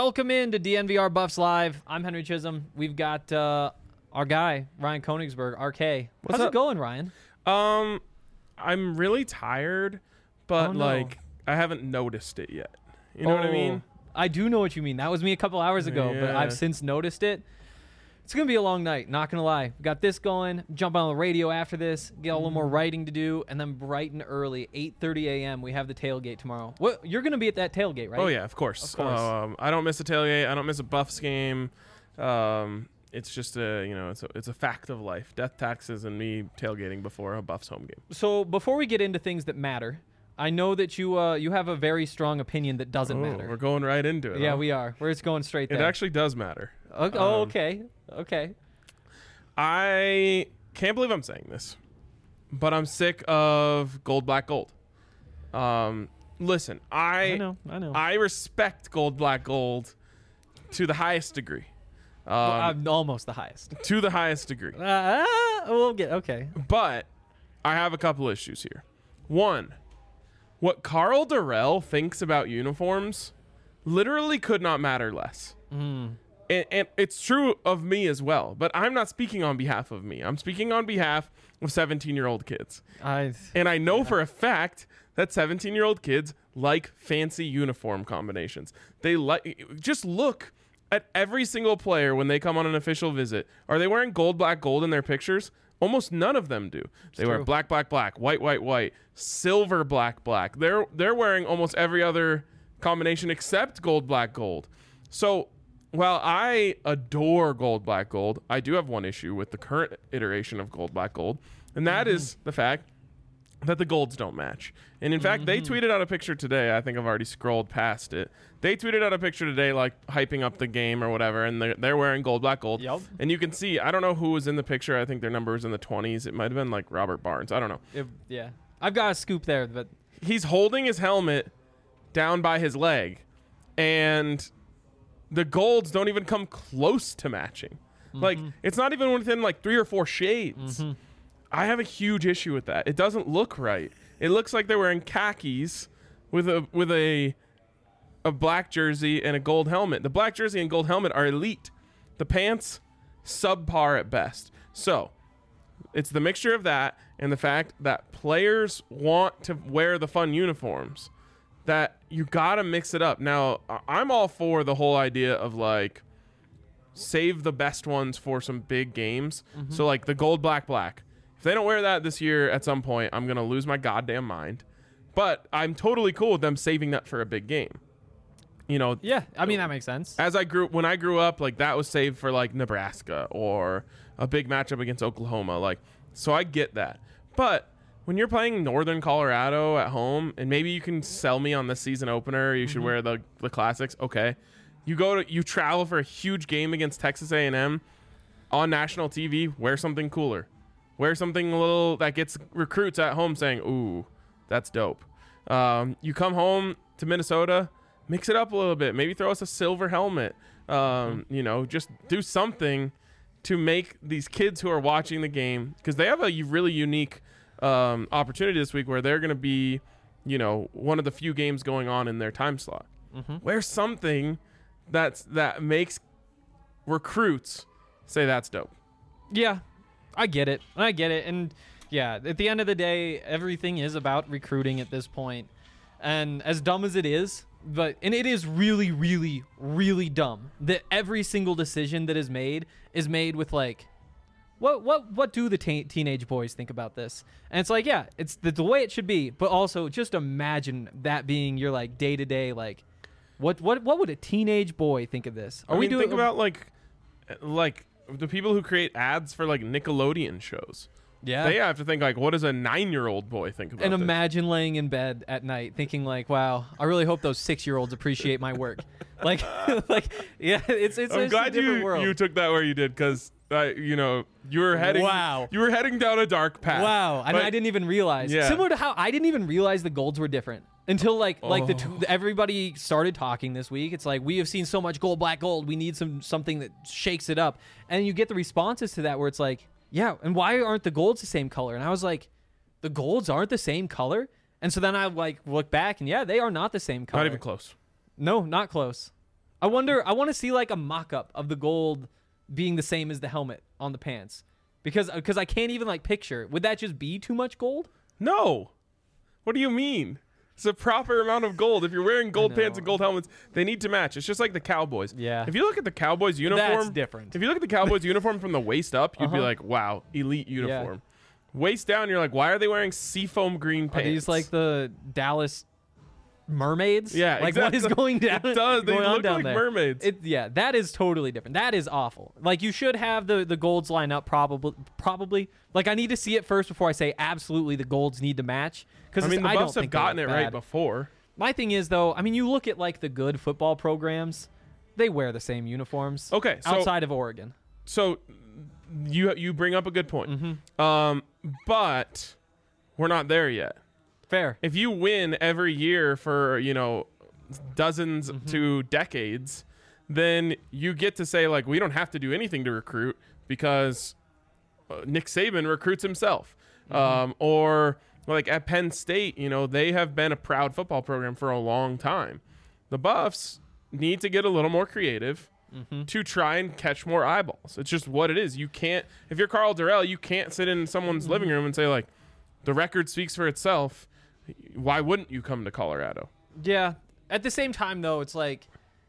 Welcome in to DNVR Buffs Live. I'm Henry Chisholm. We've got our guy, Ryan Koenigsberg, RK. How's it going, Ryan? I'm really tired, but I haven't noticed it yet. You know what I mean? I do know what you mean. That was me a couple hours ago, but I've since noticed it. It's going to be a long night, not going to lie. We got this going, jump on the radio after this, get a little more writing to do, and then bright and early, 8:30 a.m., we have the tailgate tomorrow. You're going to be at that tailgate, right? Oh, yeah, of course. Of course. I don't miss a tailgate. I don't miss a Buffs game. It's just it's a fact of life. Death taxes and me tailgating before a Buffs home game. So before we get into things that matter, I know that you have a very strong opinion that doesn't matter. We're going right into it. Yeah, huh? we are. We're just going straight there. It actually does matter. Okay. Okay. I can't believe I'm saying this, but I'm sick of gold, black, gold. Listen, I know. I respect gold, black, gold to the highest degree. I'm almost the highest. To the highest degree. We'll get okay. But I have a couple issues here. One, what Carl Durrell thinks about uniforms literally could not matter less. And it's true of me as well, but I'm not speaking on behalf of me. I'm speaking on behalf of 17-year-old kids. And I know for a fact that 17-year-old kids like fancy uniform combinations. They just look at every single player when they come on an official visit. Are they wearing gold, black, gold in their pictures? Almost none of them do. They wear black, black, black, white, white, white, silver, black, black. They're wearing almost every other combination except gold, black, gold. So while I adore gold, black, gold, I do have one issue with the current iteration of gold, black, gold, and that is the fact that the golds don't match. And in fact, they tweeted out a picture today. I think I've already scrolled past it. They tweeted out a picture today, like hyping up the game or whatever, and they're wearing gold, black, gold. Yep. And you can see, I don't know who was in the picture. I think their number was in the 20s. It might have been like Robert Barnes. I don't know. Yeah. I've got a scoop there, but he's holding his helmet down by his leg, and the golds don't even come close to matching. Like, it's not even within like 3 or 4 shades. I have a huge issue with that. It doesn't look right. It looks like they're wearing khakis with a black jersey and a gold helmet. The black jersey and gold helmet are elite. The pants, subpar at best. So it's the mixture of that and the fact that players want to wear the fun uniforms that you gotta mix it up. Now, I'm all for the whole idea of like save the best ones for some big games. So like the gold, black, black. If they don't wear that this year at some point, I'm going to lose my goddamn mind. But I'm totally cool with them saving that for a big game. You know, yeah, I mean, that makes sense. When I grew up, like that was saved for like Nebraska or a big matchup against Oklahoma. Like, so I get that. But when you're playing Northern Colorado at home, and maybe you can sell me on the season opener, you should wear the classics. Okay. You travel for a huge game against Texas A&M on national TV, wear something cooler. Wear something a little that gets recruits at home saying, ooh, that's dope. You come home to Minnesota, mix it up a little bit. Maybe throw us a silver helmet. Just do something to make these kids who are watching the game, because they have a really unique opportunity this week where they're going to be, one of the few games going on in their time slot. Wear something that makes recruits say that's dope. Yeah. I get it. And yeah, at the end of the day, everything is about recruiting at this point. And as dumb as it is, and it is really, really, really dumb that every single decision that is made with like, what do the teenage boys think about this? And it's like, yeah, it's the way it should be. But also just imagine that being your like day to day, like what would a teenage boy think of this? Think about like the people who create ads for like Nickelodeon shows. Yeah. They have to think like, what does a 9-year-old boy think about this? And imagine laying in bed at night thinking like, wow, I really hope those 6-year-olds appreciate my work. Yeah, it's I'm glad you took that where you did, because you were heading down a dark path. Wow. And I didn't even realize. Yeah. Similar to how I didn't even realize the golds were different until everybody started talking this week. It's like, we have seen so much gold, black, gold. We need something that shakes it up. And you get the responses to that where it's like, yeah, and why aren't the golds the same color? And I was like, the golds aren't the same color? And so then I like look back and yeah, they are not the same color. Not even close. No, not close. I want to see like a mock-up of the gold being the same as the helmet on the pants, because I can't even like picture. Would that just be too much gold? No. What do you mean? It's a proper amount of gold. If you're wearing gold pants and gold helmets, they need to match. It's just like the Cowboys. Yeah. If you look at the Cowboys uniform, That's different. If you look at the Cowboys uniform from the waist up, you'd be like, wow, elite uniform. Waist down, you're like, why are they wearing seafoam green pants? Are these like the Dallas mermaids? Yeah, like exactly. what is going down? It does. They going on look down like there? mermaids. Yeah, that is totally different. That is awful. Like you should have the golds line up probably. Like I need to see it first before I say absolutely the golds need to match. Because I mean, the I don't Buffs have think they gotten it look right bad. before. My thing is though, I mean, you look at like the good football programs, they wear the same uniforms. Okay, so outside of Oregon. So you bring up a good point. Mm-hmm. But we're not there yet. Fair. If you win every year for, dozens Mm-hmm. to decades, then you get to say, like, we don't have to do anything to recruit because Nick Saban recruits himself. Or like at Penn State, they have been a proud football program for a long time. The Buffs need to get a little more creative to try and catch more eyeballs. It's just what it is. You can't, if you're Carl Durrell, you can't sit in someone's living room and say, like, the record speaks for itself. Why wouldn't you come to Colorado? Yeah. At the same time, though, it's like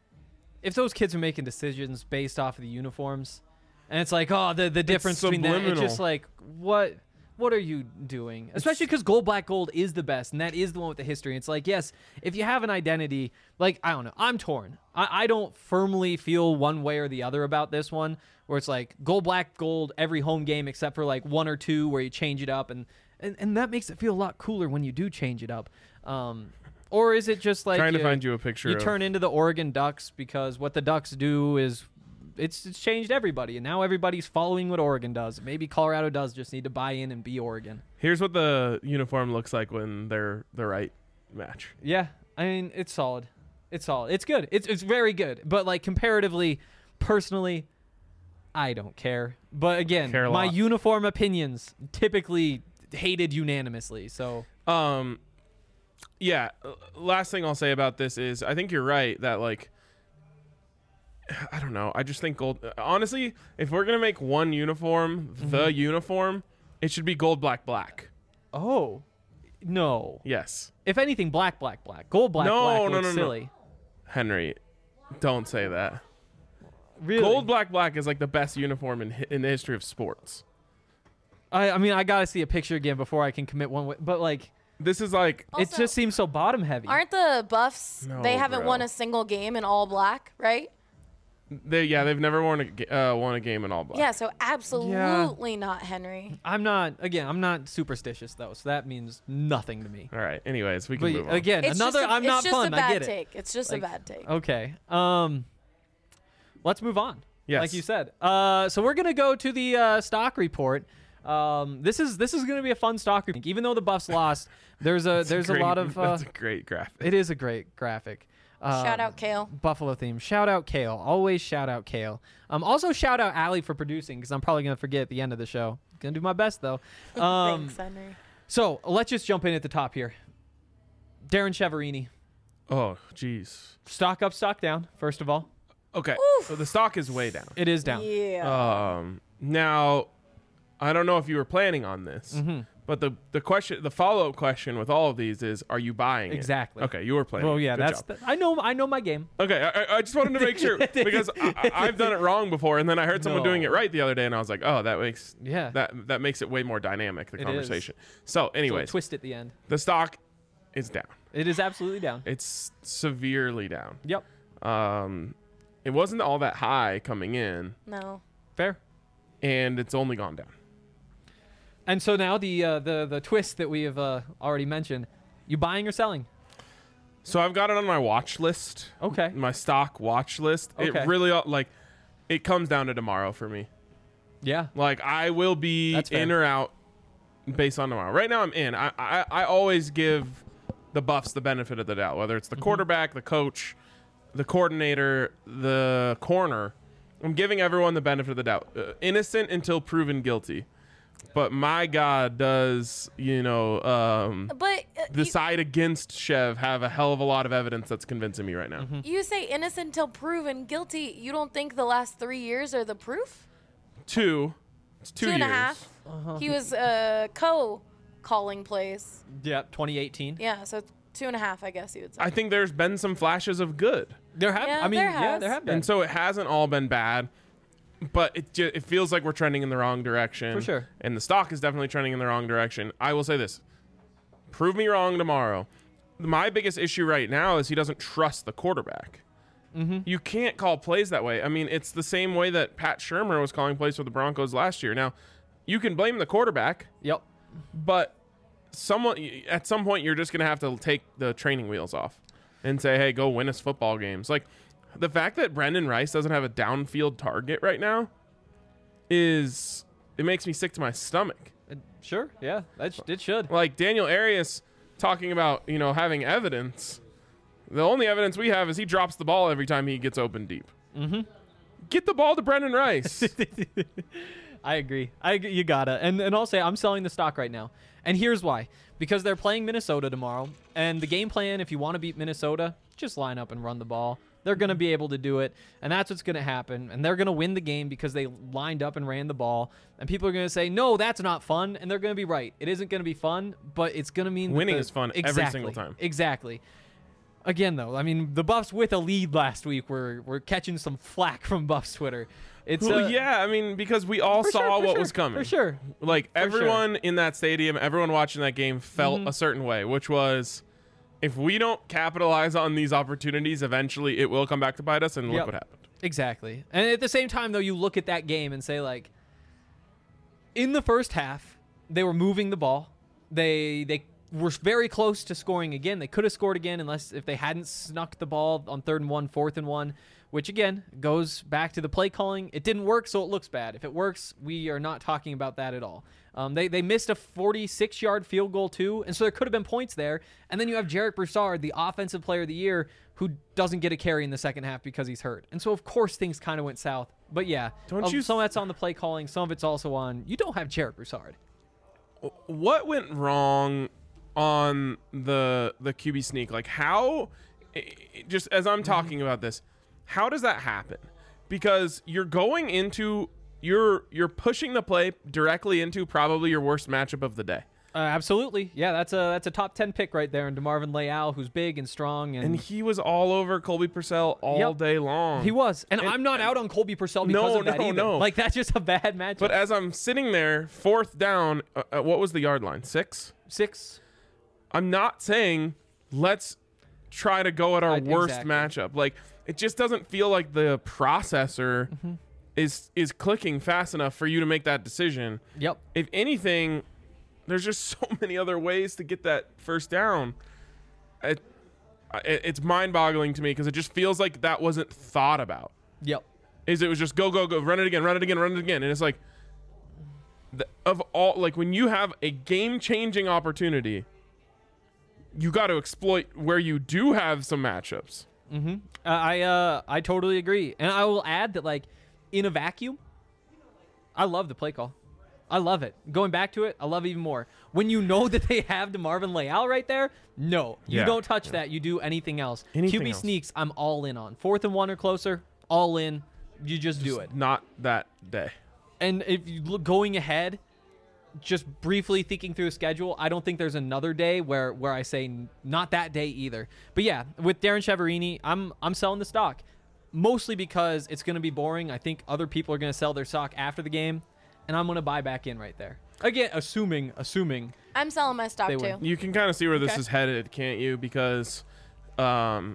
if those kids are making decisions based off of the uniforms, and it's like, oh, the difference between that, it's just like, what are you doing? Especially because gold, black, gold is the best, and that is the one with the history. It's like, yes, if you have an identity, like, I don't know, I'm torn. I don't firmly feel one way or the other about this one, where it's like gold, black, gold every home game except for like one or two where you change it up, and that makes it feel a lot cooler when you do change it up. Or is it just like trying to find you a picture you of turn into the Oregon Ducks because what the Ducks do is it's changed everybody, and now everybody's following what Oregon does. Maybe Colorado does just need to buy in and be Oregon. Here's what the uniform looks like when they're the right match. Yeah, I mean, it's solid. It's solid. It's good. It's very good. But like comparatively, personally, I don't care. But again, Care a my lot. uniform opinions typically hated unanimously. So Yeah, last thing I'll say about this is I think you're right that, like, I don't know. I just think gold. Honestly, if we're going to make one uniform, the uniform, it should be gold, black, black. oh no. Yes. If anything, black, black, black. Gold, black, black looks silly. Henry, don't say that. Really? Gold, black, black is like the best uniform in the history of sports. I mean, I gotta see a picture again before I can commit one way, but like This is like it Also, just seems so bottom heavy. Aren't the Buffs? No, they haven't bro. won a single game in all black, right? they've never won a game in all black. Yeah, so absolutely not Henry. I'm not superstitious though, so that means nothing to me. All right. Anyways, we can But move on. again, It's another just a, I'm it's not just fun. a bad I get it. take. It's just Like, a bad take. Okay. Let's move on. Yes. Like you said. So we're gonna go to the stock report. This is gonna be a fun stock report. Even though the Buffs lost, there's a lot of. That's a great graphic. It is a great graphic. Shout out Kale. Buffalo theme. Shout out Kale. Always shout out Kale. Also shout out Allie for producing because I'm probably gonna forget at the end of the show. Gonna do my best though. Thanks, Henry. So let's just jump in at the top here. Darren Cheverini. Oh, jeez. Stock up, stock down. First of all, Okay. So the stock is way down. it is down. Yeah. Now, I don't know if you were planning on this, but the follow-up question with all of these is, are you buying it? Exactly. Okay, you were planning. Well, yeah, Good that's. job. I know my game. Okay, I just wanted to make sure because I've done it wrong before, and then I heard someone No. doing it right the other day, and I was like, oh, that makes Yeah. that makes it way more dynamic, the It is. conversation. So, So anyways, twist at the end. the stock is down. It is absolutely down. It's severely down. Yep. It wasn't all that high coming in, No. Fair. and it's only gone down. And so now the twist that we have already mentioned. You buying or selling? So I've got it on my watch list. Okay. My stock watch list. Okay. It really it comes down to tomorrow for me. Yeah. Like I will be That's fair. in or out based on tomorrow. Right now I'm in. I always give the Buffs the benefit of the doubt, whether it's the quarterback, the coach, the coordinator, the corner. I'm giving everyone the benefit of the doubt. Innocent until proven guilty. But my God, does But the side against Chev have a hell of a lot of evidence that's convincing me right now. You say innocent until proven guilty. You don't think the last 3 years are the proof? It's 2 2.5. years. He was calling plays. Yeah, 2018. Yeah, so 2.5, I guess you would say. I think there's been some flashes of good. There have. Yeah, I mean, there yeah, has. there have been. And so it hasn't all been bad, but it feels like we're trending in the wrong direction. For sure. And the stock is definitely trending in the wrong direction. I will say this. Prove me wrong tomorrow. My biggest issue right now is he doesn't trust the quarterback. You can't call plays that way. I mean, it's the same way that Pat Shurmur was calling plays for the Broncos last year. Now, you can blame the quarterback, Yep. but at some point you're just going to have to take the training wheels off and say, hey, go win us football games. Like, the fact that Brendan Rice doesn't have a downfield target right now it makes me sick to my stomach. Sure. Yeah. It should. Like Daniel Arias talking about, having evidence. The only evidence we have is he drops the ball every time he gets open deep. Get the ball to Brendan Rice. I agree. You gotta. And I'll say I'm selling the stock right now. And here's why. Because they're playing Minnesota tomorrow. And the game plan, if you want to beat Minnesota, just line up and run the ball. They're going to be able to do it. And that's what's going to happen. And they're going to win the game because they lined up and ran the ball. And people are going to say, no, that's not fun. And they're going to be right. It isn't going to be fun, but it's going to mean winning is fun every single time. Exactly. Again, though, I mean, the Buffs with a lead last week were catching some flack from Buffs Twitter. It's yeah, I mean, because we all saw what was coming. For sure. Like, everyone in that stadium, everyone watching that game felt a certain way, which was, if we don't capitalize on these opportunities, eventually it will come back to bite us, and look what happened. Exactly. And at the same time, though, you look at that game and say, like, in the first half, they were moving the ball. They were very close to scoring again. They could have scored again if they hadn't snuck the ball on 3rd and 1, 4th and 1, which, again, goes back to the play calling. It didn't work, so it looks bad. If it works, we are not talking about that at all. They missed a 46-yard field goal, too, and so there could have been points there. And then you have Jarek Broussard, the Offensive Player of the Year, who doesn't get a carry in the second half because he's hurt. And so, of course, things kind of went south. But, yeah, some of that's on the play calling. Some of it's also on you don't have Jarek Broussard. What went wrong on the QB sneak? Like, how, just as I'm talking about this, how does that happen? Because you're going into you're pushing the play directly into probably your worst matchup of the day. Absolutely. Yeah, that's a top 10 pick right there in DeMarvin Leal, who's big and strong. And he was all over Colby Purcell all day long. He was. And I'm not out on Colby Purcell because of that either. No. Like, that's just a bad matchup. But as I'm sitting there, 4th down, what was the yard line? 6? 6. I'm not saying let's try to go at our worst matchup. Like, it just doesn't feel like the processor is clicking fast enough for you to make that decision. Yep. If anything, there's just so many other ways to get that first down. It's mind-boggling to me because it just feels like that wasn't thought about. Yep. It was just go, run it again. And it's like, when you have a game-changing opportunity, you got to exploit where you do have some matchups. I totally agree. And I will add that, like, in a vacuum, I love the play call. I love it. Going back to it, I love it even more. When you know that they have DeMarvin Leal right there, no. You don't touch that. You do anything else. QB sneaks, I'm all in on. 4th and 1 or closer, all in. You just do it. Not that day. And if you look going ahead, just briefly thinking through a schedule, I don't think there's another day where I say not that day either. But yeah, with Darren Chiaverini, I'm selling the stock. Mostly because it's going to be boring. I think other people are going to sell their stock after the game, and I'm going to buy back in right there. Again, assuming I'm selling my stock too. You can kind of see where this is headed, can't you? Because Karl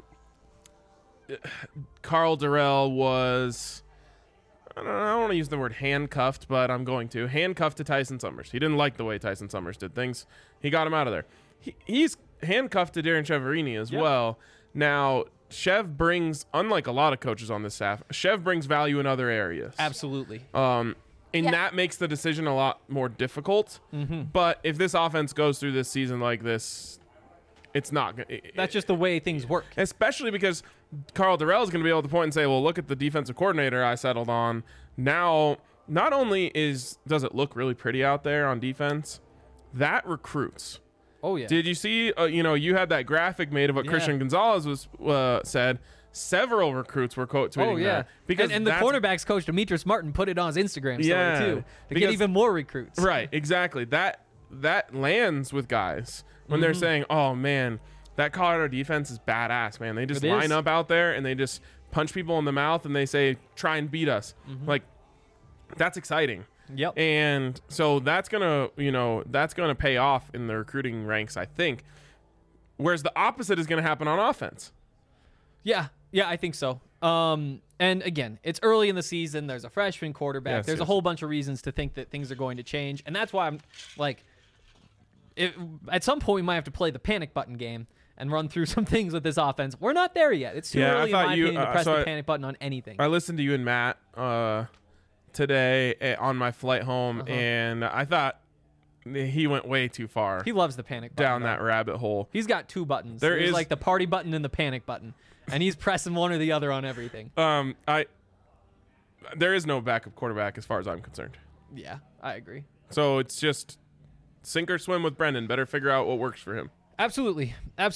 Dorrell was, I don't want to use the word handcuffed, but I'm going to. Handcuffed to Tyson Summers. He didn't like the way Tyson Summers did things. He got him out of there. He's handcuffed to Darren Chiaverini as well. Now, Chev brings, unlike a lot of coaches on this staff, Chev brings value in other areas. Absolutely. That makes the decision a lot more difficult. But if this offense goes through this season like this, it's not. That's just the way things work. Especially because Karl Dorrell is going to be able to point and say, well, look at the defensive coordinator I settled on. Now, not only does it look really pretty out there on defense, that recruits. Oh yeah. Did you see? You had that graphic made of what Yeah. Christian Gonzalez was said. Several recruits were quote tweeting Oh yeah, that because and the that's- cornerbacks coach Demetrius Martin put it on his Instagram story Yeah, too to because- get even more recruits. Right, exactly. That lands with guys when they're saying, "Oh man, that Colorado defense is badass, man. They just It line is. up out there and they just punch people in the mouth and they say, "Try and beat us." Like that's exciting. Yep. And so that's going to pay off in the recruiting ranks, I think. Whereas the opposite is going to happen on offense. Yeah, I think so. And again, it's early in the season. There's a freshman quarterback. Yes, There's a yes. whole bunch of reasons to think that things are going to change, and that's why I'm like, at some point we might have to play the panic button game and run through some things with this offense. We're not there yet. It's too Yeah, I early in thought my you- opinion to press so the I- panic button on anything. I listened to you and Matt today on my flight home, and I thought he went way too far He loves the panic button. down that rabbit hole. He's got two buttons. There There's is- like the party button and the panic button, and he's pressing one or the other on everything. There is no backup quarterback as far as I'm concerned. Yeah, I agree. So it's just sink or swim with Brendan. Better figure out what works for him. Absolutely.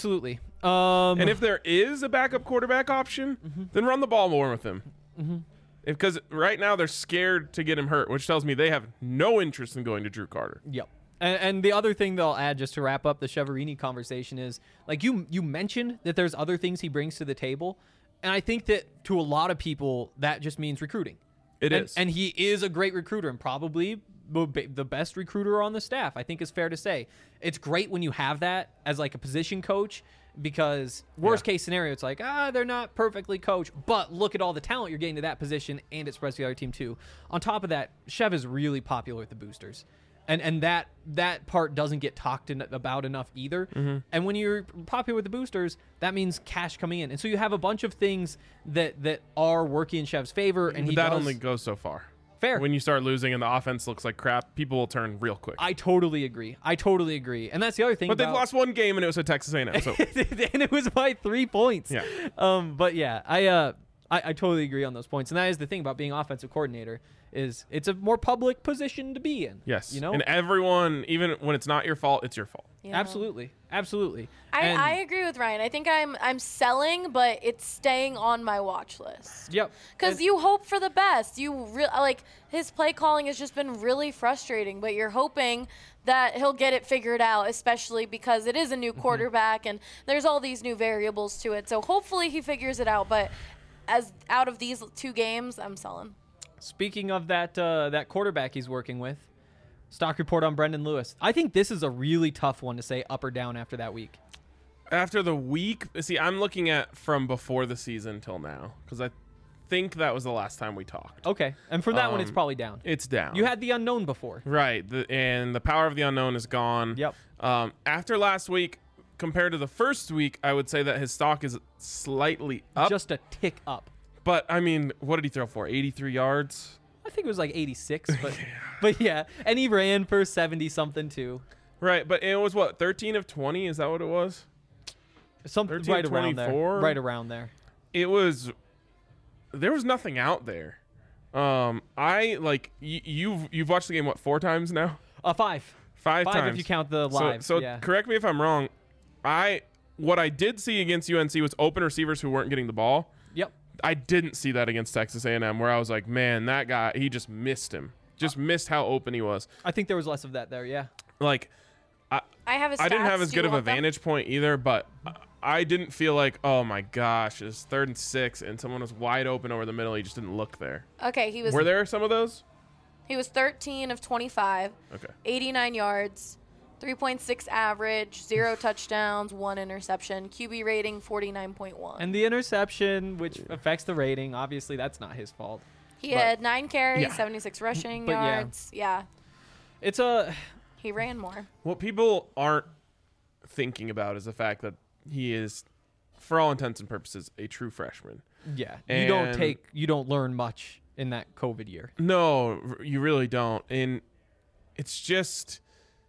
And if there is a backup quarterback option, then run the ball more with him. Because right now they're scared to get him hurt, which tells me they have no interest in going to Drew Carter. Yep. And the other thing they'll add just to wrap up the Cheverini conversation is, like you mentioned that there's other things he brings to the table, and I think that to a lot of people that just means recruiting. It is. And he is a great recruiter and probably the best recruiter on the staff, I think is fair to say. It's great when you have that as like a position coach, because worst case scenario, it's like, they're not perfectly coached, but look at all the talent you're getting to that position, and it spreads to the other team too. On top of that, Chev is really popular with the boosters. And that part doesn't get talked about enough either. And when you're popular with the boosters, that means cash coming in. And so you have a bunch of things that are working in Chev's favor. And But he that does, only goes so far. fair. When you start losing and the offense looks like crap, people will turn real quick. I totally agree. And that's the other thing. But they've about- lost one game and it was at Texas A&M. So and it was by 3 points. Yeah. But yeah, I totally agree on those points. And that is the thing about being offensive coordinator, is it's a more public position to be in. yes, You know? and everyone, even when it's not your fault, it's your fault. Yeah. Absolutely. And- I agree with Ryan. I think I'm selling, but it's staying on my watch list. Yep. Because And- you hope for the best. Like his play calling has just been really frustrating, but you're hoping that he'll get it figured out, especially because it is a new quarterback and there's all these new variables to it. So hopefully he figures it out. But as out of these 2 games, I'm selling. Speaking of that quarterback he's working with, stock report on Brendan Lewis. I think this is a really tough one to say up or down after that week. After the week, see, I'm looking at from before the season till now because I think that was the last time we talked. Okay. And for that one, it's probably down. It's down. You had the unknown before. right, and the power of the unknown is gone. Yep. After last week, compared to the first week, I would say that his stock is slightly up. Just a tick up. But I mean, what did he throw for? 83 yards. I think it was like 86, but yeah. And he ran for 70 something too. Right, but it was what, 13 of 20? Is that what it was? Something 13 right around there. 24? Right around there. It was. There was nothing out there. I like you've watched the game what 4 times now? 5. 5 times if you count the live. So yeah. correct me if I'm wrong. What I did see against UNC was open receivers who weren't getting the ball. Yep. I didn't see that against Texas A&M, where I was like, man, that guy, he just missed him. Just missed how open he was. I think there was less of that there. Yeah. Like, I have a I didn't stats. have as Do good you of a want them? vantage point either, but I didn't feel like, oh my gosh, it's 3rd and 6, and someone was wide open over the middle. He just didn't look there. Okay, he was Were there some of those? 13 of 25, Okay. 89 yards, 3.6 average, 0 touchdowns, 1 interception, QB rating 49.1. And the interception, which affects the rating, obviously that's not his fault. He but- had 9 carries, Yeah. 76 rushing But yeah. yards. Yeah, It's a he ran more. What people aren't thinking about is the fact that he is, for all intents and purposes, a true freshman. yeah. And- You don't learn much in that COVID year. No, you really don't. And it's just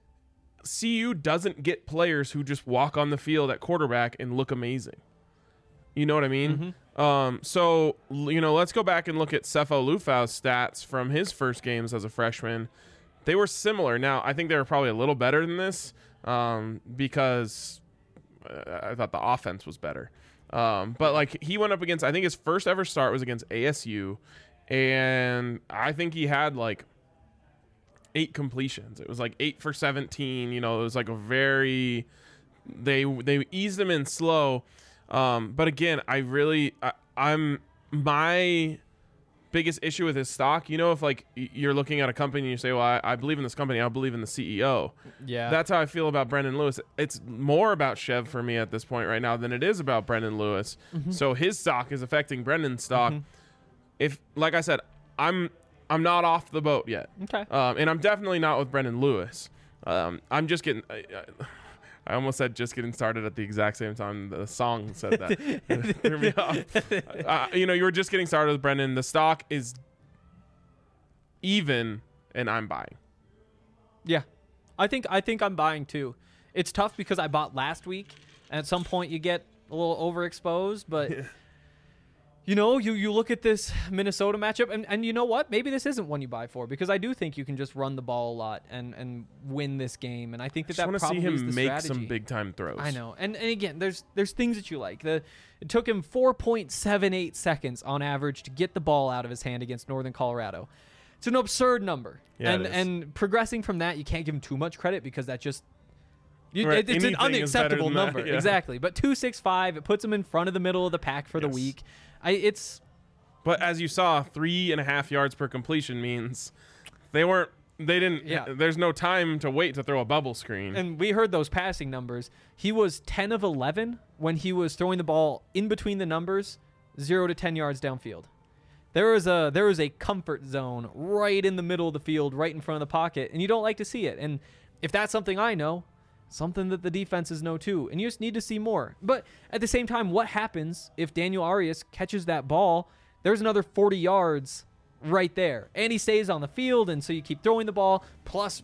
CU doesn't get players who just walk on the field at quarterback and look amazing. You know what I mean? So, let's go back and look at Sefo Lufau's stats from his first games as a freshman. They were similar. Now, I think they were probably a little better than this, because I thought the offense was better. But like he went up against, I think his first ever start was against ASU, and I think he had like 8 completions. It was like 8 for 17. You know, it was like a very they eased him in slow. But again, I'm my biggest issue with his stock. You know, if like you're looking at a company and you say, well, I believe in this company, I believe in the CEO. Yeah. That's how I feel about Brendan Lewis. It's more about Chev for me at this point right now than it is about Brendan Lewis. So his stock is affecting Brendan's stock. If, like I said, I'm not off the boat yet. Okay. And I'm definitely not with Brendan Lewis. I'm just getting. I almost said just getting started at the exact same time the song said that. It threw me off. You know, you were just getting started with Brendan. The stock is even, and I'm buying. Yeah. I think I'm buying too. It's tough because I bought last week, and at some point you get a little overexposed, but you know, you look at this Minnesota matchup, and you know what? Maybe this isn't one you buy for, because I do think you can just run the ball a lot and win this game, and I think that I just want to see probably is him the make strategy. some big time throws. I know, and again, there's things that you like. It took him 4.78 seconds on average to get the ball out of his hand against Northern Colorado. It's an absurd number, Yeah, and progressing from that, you can't give him too much credit because that just Right, it's an anything is better unacceptable than that, number. yeah. Exactly, but 265, it puts him in front of the middle of the pack for the Yes. week. But as you saw, 3.5 yards per completion means they didn't. Yeah. There's no time to wait to throw a bubble screen. And we heard those passing numbers. He was 10 of 11 when he was throwing the ball in between the numbers, 0 to 10 yards downfield. There was a comfort zone right in the middle of the field, right in front of the pocket, and you don't like to see it. And if that's something I know, something that the defenses know too, and you just need to see more. But at the same time, what happens if Daniel Arias catches that ball? There's another 40 yards right there, and he stays on the field, and so you keep throwing the ball. Plus,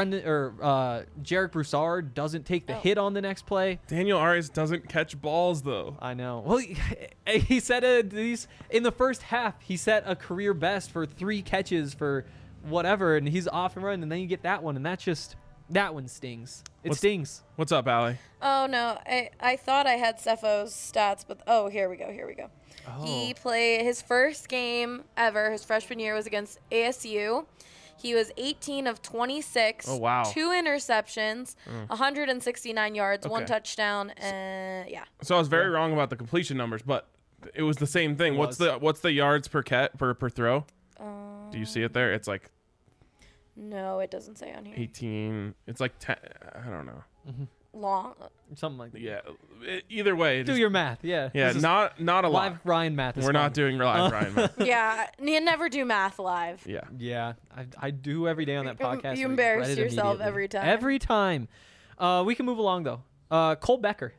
Jarek Broussard doesn't take the hit on the next play. Daniel Arias doesn't catch balls though. I know. Well, he set in the first half. He set a career best for 3 catches for whatever, and he's off and running. And then you get that one, and that one stings. Stings. What's up, Allie? Oh no, I thought I had Cefo's stats, but here we go. Oh. He played his first game ever. His freshman year was against ASU. He was 18 of 26. Oh, wow. 2 interceptions, 169 yards, 1 Okay. touchdown, and yeah. So I was very wrong about the completion numbers, but it was the same thing. What's the yards per throw? Do you see it there? It's like No, it doesn't say on here. 18. It's like 10. I don't know. Long. Something like that. Yeah. Either way. Do your math. Yeah. Yeah. This is Not a lot. live Ryan math. Is We're fun. not doing live Ryan math. Yeah, you never do math live. Yeah. Yeah, I do every day on that podcast. You I embarrass regret it yourself immediately. every time. Every time. We can move along though. Cole Becker.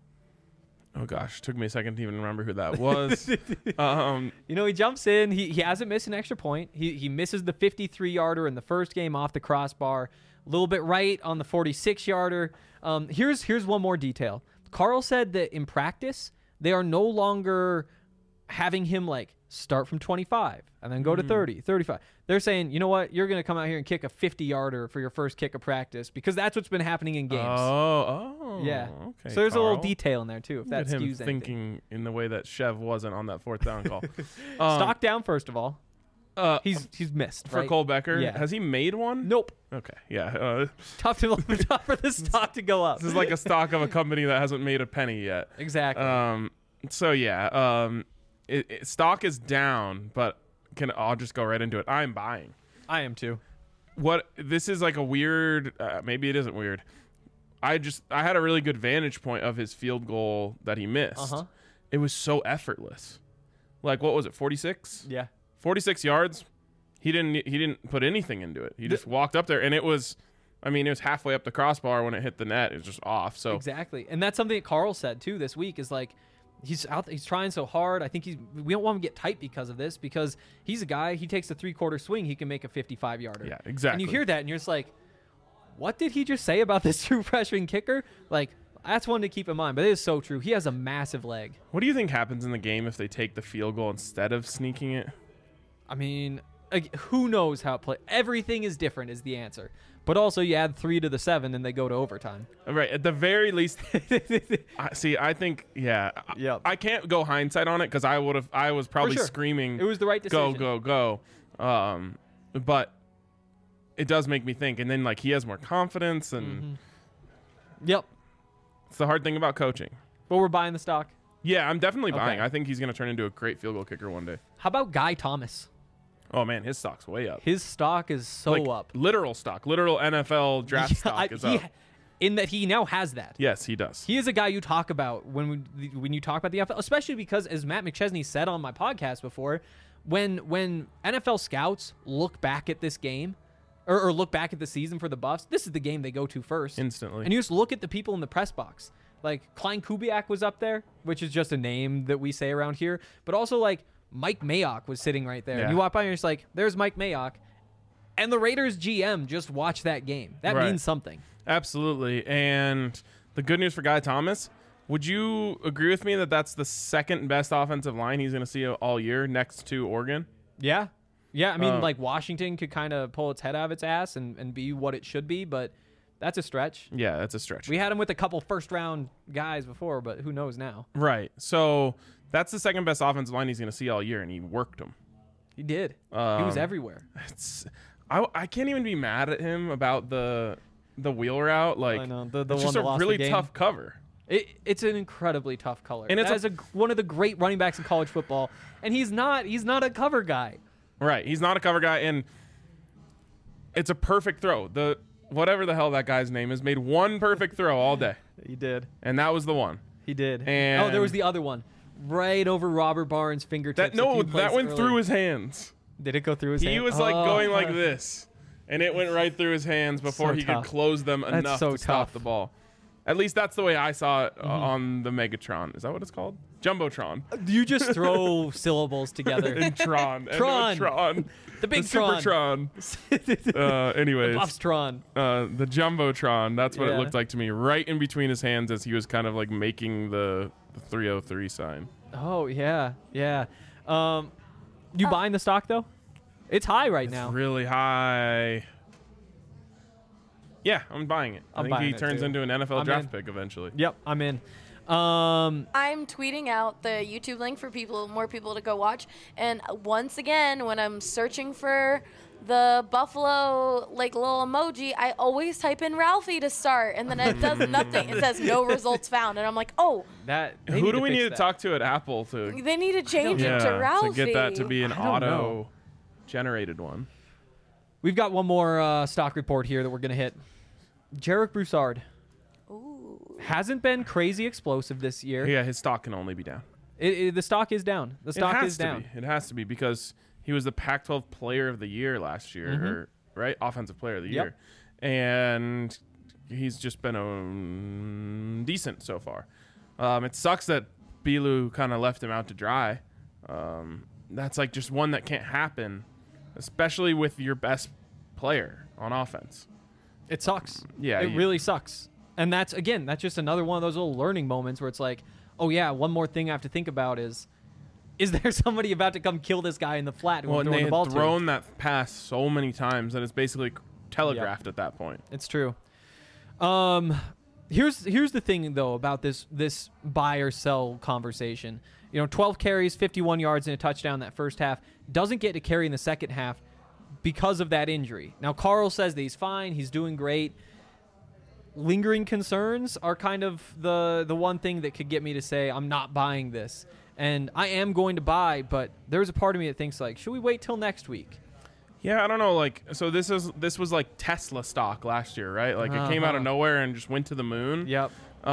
Oh gosh, took me a second to even remember who that was. You know, he jumps in. He hasn't missed an extra point. He misses the 53-yarder in the first game off the crossbar. A little bit right on the 46-yarder. Here's one more detail. Carl said that in practice, they are no longer having him like start from 25 and then go to 30, 35. They're saying, you know what? You're going to come out here and kick a 50-yarder for your first kick of practice because that's what's been happening in games. Oh, yeah. Okay. So there's a little Carl. detail in there too, if that Look at him skews anything. thinking in the way that Chev wasn't on that fourth down call. Stock down first of all. He's missed for right? Cole Becker. Yeah. Has he made one? Nope. Okay. Yeah. Tough for the stock to go up. This is like a stock of a company that hasn't made a penny yet. Exactly. So yeah. Stock is down, but I'll just go right into it. I'm buying. I am too. This is like a weird. Maybe it isn't weird. I had a really good vantage point of his field goal that he missed. Uh-huh. It was so effortless. Like what was it? 46. Yeah. 46 yards. He didn't put anything into it. He just walked up there, and it was halfway up the crossbar when it hit the net. It was just off. So Exactly. And that's something that Carl said too this week is like he's trying so hard. I think we don't want him to get tight because of this, because he's a guy, he takes a 3/4 swing, he can make a 55-yarder. Yeah, exactly. And you hear that and you're just like, what did he just say about this true freshman kicker? Like, that's one to keep in mind, but it is so true. He has a massive leg. what do you think happens in the game if they take the field goal instead of sneaking it? I mean, like, who knows how it play. Everything is different is the answer. But also, you add 3 to the 7, and they go to overtime. Right. At the very least, I think, yeah. Yep. I can't go hindsight on it because I was probably sure. screaming. It was the right decision. Go. But it does make me think. And then, like, he has more confidence, and Yep. it's the hard thing about coaching. But we're buying the stock. Yeah, I'm definitely buying. Okay. I think he's going to turn into a great field goal kicker one day. How about Guy Thomas? Oh, man, his stock's way up. His stock is so Like, up. literal stock. Literal NFL draft stock is up. In that he now has that. Yes, he does. He is a guy you talk about when you talk about the NFL, especially because, as Matt McChesney said on my podcast before, when NFL scouts look back at this game or look back at the season for the Buffs, this is the game they go to first. Instantly. And you just look at the people in the press box. Like, Klein Kubiak was up there, which is just a name that we say around here. But also, like, Mike Mayock was sitting right there. Yeah. And you walk by and you're just like, there's Mike Mayock. And the Raiders GM just watched that game. That Right. means something. Absolutely. And the good news for Guy Thomas, would you agree with me that that's the second best offensive line he's going to see all year next to Oregon? Yeah. Yeah, I mean, like, Washington could kind of pull its head out of its ass and be what it should be, but that's a stretch. Yeah, that's a stretch. We had him with a couple first-round guys before, but who knows now? Right. So that's the second best offensive line he's going to see all year, and he worked them. He did. He was everywhere. I can't even be mad at him about the wheel route. Like, I know. The it's one just that a lost really the game. tough cover. It's an incredibly tough color. And it's one of the great running backs in college football, and he's not a cover guy. Right. He's not a cover guy, and it's a perfect throw. Whatever the hell that guy's name is made one perfect throw all day, He did. and that was the one. He did. And there was the other one. Right over Robert Barnes' fingertips. That a few plays went earlier. through his hands. Did it go through his hand? He was like going like this, and it went right through his hands before So he tough. could close them That's enough so to stop tough. the ball. At least that's the way I saw it on the Megatron. Is that what it's called? Jumbotron. You just throw syllables together. And Tron. Tron. Tron. The big Supertron. Anyways, Buffs Tron. the Jumbotron. That's what it Yeah. looked like to me. Right in between his hands as he was kind of like making the 303 sign. Oh yeah, yeah. You buying the stock though? It's high right now. Really high. Yeah, I'm buying it. I I'm think he buying it, turns too. into an NFL I'm draft in. pick eventually. Yep, I'm in. I'm tweeting out the YouTube link for more people to go watch. And once again, when I'm searching for the Buffalo like little emoji, I always type in Ralphie to start, and then it does nothing. It says no results found, and I'm like, oh, Who do we need to talk to at Apple to they need to change it to Ralphie. to get that to be an I don't know. auto-generated one? We've got one more stock report here that we're gonna hit. Jarek Broussard Ooh. hasn't been crazy explosive this year. Yeah, his stock can only be down. The stock is down. The stock it has is to down. Be. It has to be because he was the Pac-12 Player of the Year last year, right? Offensive Player of the Year, and he's just been decent so far. It sucks that Bilu kind of left him out to dry. That's like just one that can't happen, especially with your best player on offense. It sucks. Yeah, It really sucks. And that's just another one of those little learning moments where it's like, oh yeah, one more thing I have to think about is there somebody about to come kill this guy in the flat who Well, I'm and throwing they the ball had to? thrown that pass so many times that it's basically telegraphed at that point. It's true. Here's the thing though about this buy or sell conversation. 12 carries, 51 yards, and a touchdown that first half. Doesn't get to carry in the second half because of that injury. Now Carl says that he's fine, he's doing great. Lingering concerns are kind of the one thing that could get me to say I'm not buying this. And I am going to buy, but there's a part of me that thinks like, should we wait till next week? Yeah, I don't know. Like, so this was like Tesla stock last year, right? Like, it came out of nowhere and just went to the moon. Yep.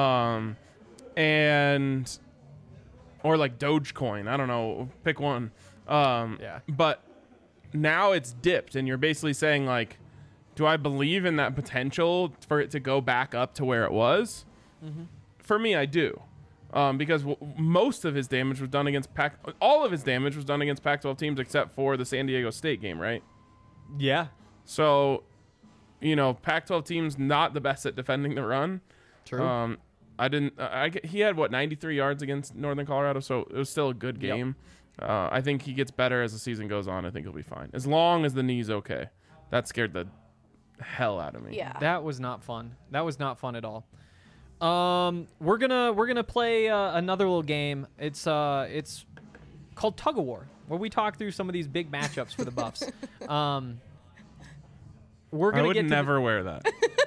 And or like Dogecoin. I don't know. Pick one. Yeah. But now it's dipped, and you're basically saying like, do I believe in that potential for it to go back up to where it was? Mm-hmm. For me, I do. Because most of his damage was done against all of his damage was done against Pac-12 teams except for the San Diego State game, right? Yeah. So, Pac-12 teams not the best at defending the run. True. He had 93 yards against Northern Colorado, so it was still a good game. I think he gets better as the season goes on. I think he'll be fine as long as the knee's okay. That scared the hell out of me. Yeah. That was not fun. That was not fun at all. We're gonna play another little game. It's called Tug of War, where we talk through some of these big matchups for the Buffs. We're gonna I would get never wear that.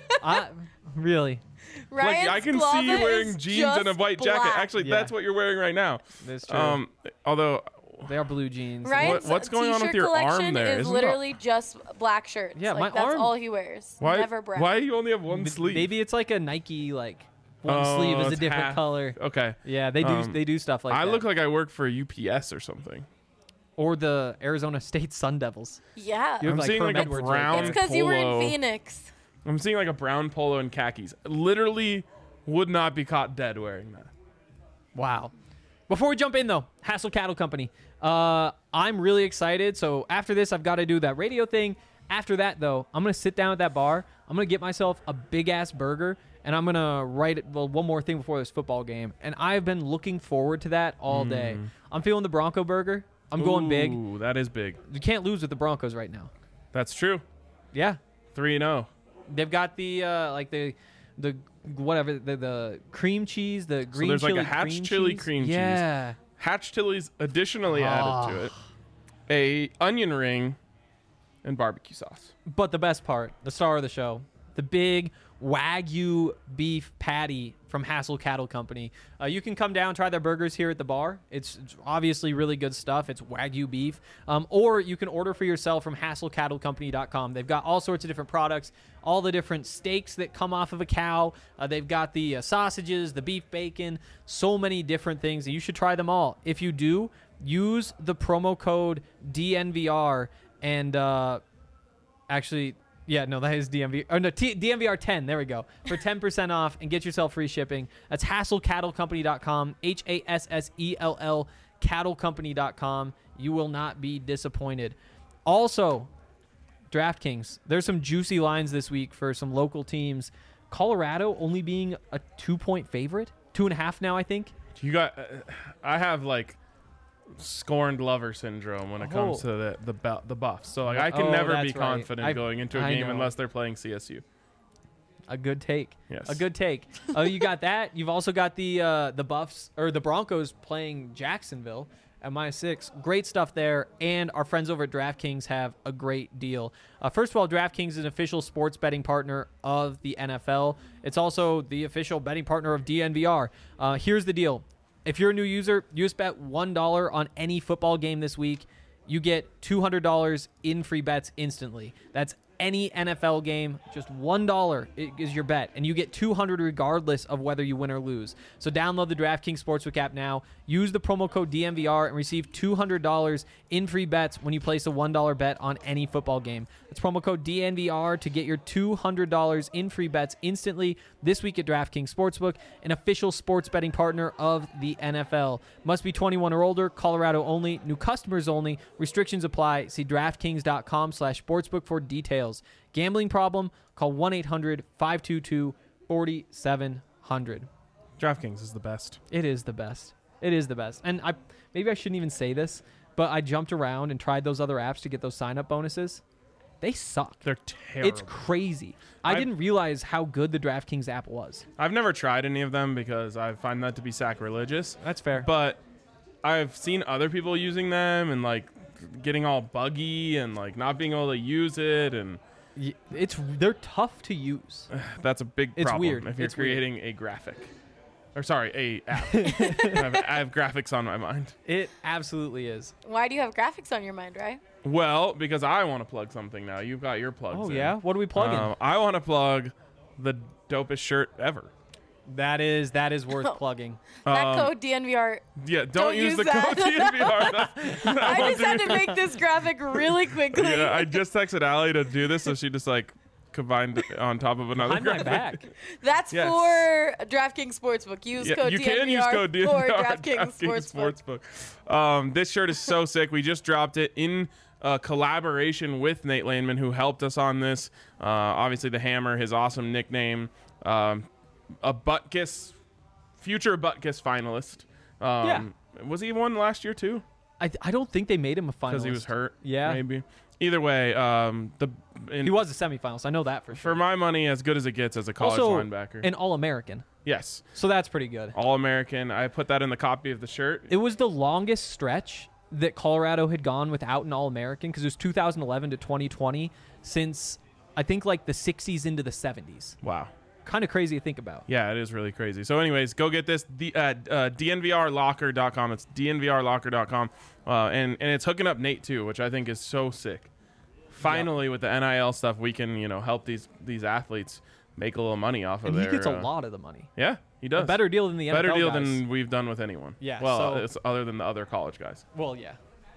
Really. Ryan's I can closet see you wearing is jeans and a just white jacket. black. Actually, Yeah. that's what you're wearing right now. That's true. Although They are blue jeans. Ryan's what's going on with t-shirt your arm collection there? is Isn't literally just black shirts. Yeah, like, my that's arm- all he wears. why? Never brown. Why do you only have one sleeve? Maybe it's like a Nike like one Oh, sleeve is a it's different half. color. Okay. Yeah, they do stuff like I that. look like I work for UPS or something. or the Arizona State Sun Devils. Yeah. You have I'm like seeing Herm like a Edwards brown It's because you were in polo. Phoenix. I'm seeing like a brown polo and khakis. Literally would not be caught dead wearing that. Wow. Before we jump in, though, Hassel Cattle Company. I'm really excited. So after this, I've got to do that radio thing. After that, though, I'm going to sit down at that bar. I'm going to get myself a big-ass burger, and I'm going to write it. Well, one more thing before this football game. And I've been looking forward to that all day. I'm feeling the Bronco burger. I'm going big. Ooh, that is big. You can't lose with the Broncos right now. That's true. Yeah. 3-0. They've got the the whatever the cream cheese, the green there's like chili a Hatch cream chili cheese. cream cheese. Yeah. Hatch chilies additionally added to it. A onion ring and barbecue sauce. But the best part, the star of the show, the big Wagyu beef patty from Hassel Cattle Company. You can come down, try their burgers here at the bar. It's obviously really good stuff. It's Wagyu beef. Or you can order for yourself from HassleCattleCompany.com. They've got all sorts of different products, all the different steaks that come off of a cow. They've got the sausages, the beef bacon, so many different things. You should try them all. If you do, use the promo code DNVR and actually... Yeah, no, that is DMV. Oh, no, DMVR 10. There we go. For 10% off and get yourself free shipping. That's HassleCattleCompany.com. HASSELL CattleCompany.com. You will not be disappointed. Also, DraftKings. There's some juicy lines this week for some local teams. Colorado only being a 2-point favorite. 2.5 now, I think. You got. I have like scorned lover syndrome when it comes to the Buffs. So like I can never be that's right. confident going into a I game know. unless they're playing CSU. A good take. Yes. A good take. You got that. You've also got the Buffs or the Broncos playing Jacksonville at -6. Great stuff there. And our friends over at DraftKings have a great deal. First of all, DraftKings is an official sports betting partner of the NFL. It's also the official betting partner of DNVR. Here's the deal. If you're a new user, you just bet $1 on any football game this week. You get $200 in free bets instantly. That's any NFL game, just $1 is your bet, and you get $200 regardless of whether you win or lose. So download the DraftKings Sportsbook app now. Use the promo code DNVR and receive $200 in free bets when you place a $1 bet on any football game. That's promo code DNVR to get your $200 in free bets instantly this week at DraftKings Sportsbook, an official sports betting partner of the NFL. Must be 21 or older, Colorado only, new customers only, restrictions apply. See DraftKings.com/sportsbook for details. Gambling problem? Call 1-800-522-4700. DraftKings is the best. It is the best. It is the best. And maybe I shouldn't even say this, but I jumped around and tried those other apps to get those sign-up bonuses. They suck. They're terrible. It's crazy. I didn't realize how good the DraftKings app was. I've never tried any of them because I find that to be sacrilegious. That's fair. But I've seen other people using them and like getting all buggy and like not being able to use it, and They're tough to use. that's a big It's problem weird. if you're It's weird. creating a graphic. Or sorry, a app. I have graphics on my mind. It absolutely is. Why do you have graphics on your mind, right? Well, because I want to plug something now. You've got your plugs. Oh, in. yeah? What are we plugging? I want to plug the dopest shirt ever. That is worth plugging. That code DNVR. Yeah, don't Don't use use the that. code DNVR. I just had to make this graphic really quickly. Yeah, I just texted Allie to do this, so she just like combined it on top of another Behind my graphic. back. That's Yes. for DraftKings Sportsbook. Use Yeah, code you DNVR can use code DNVR for at DraftKings Sportsbook. Sportsbook. This shirt is so sick. We just dropped it in collaboration with Nate Landman, who helped us on this. Obviously, the Hammer, his awesome nickname. A Butkus, future Butkus finalist. Yeah. Was he one last year too? I don't think they made him a finalist. because he was hurt. Yeah. Maybe. Either way, He was a semifinalist. I know that for sure. for my money, as good as it gets as a college Also, linebacker. an All-American. Yes. So that's pretty good. All-American. I put that in the copy of the shirt. It was the longest stretch that Colorado had gone without an All-American because it was 2011 to 2020 since I think like the 60s into the 70s. Wow. Kind of crazy to think about. Yeah, it is really crazy. So anyways, go get this dnvrlocker.com. It's dnvrlocker.com. And it's hooking up Nate too, which I think is so sick. Finally, with the NIL stuff, we can, help these athletes make a little money off of And their. he gets a lot of the money. Yeah, he does. A better deal than the NFL Better deal guys. than we've done with anyone. Yeah, Well, so- it's other than the other college guys. Well, yeah.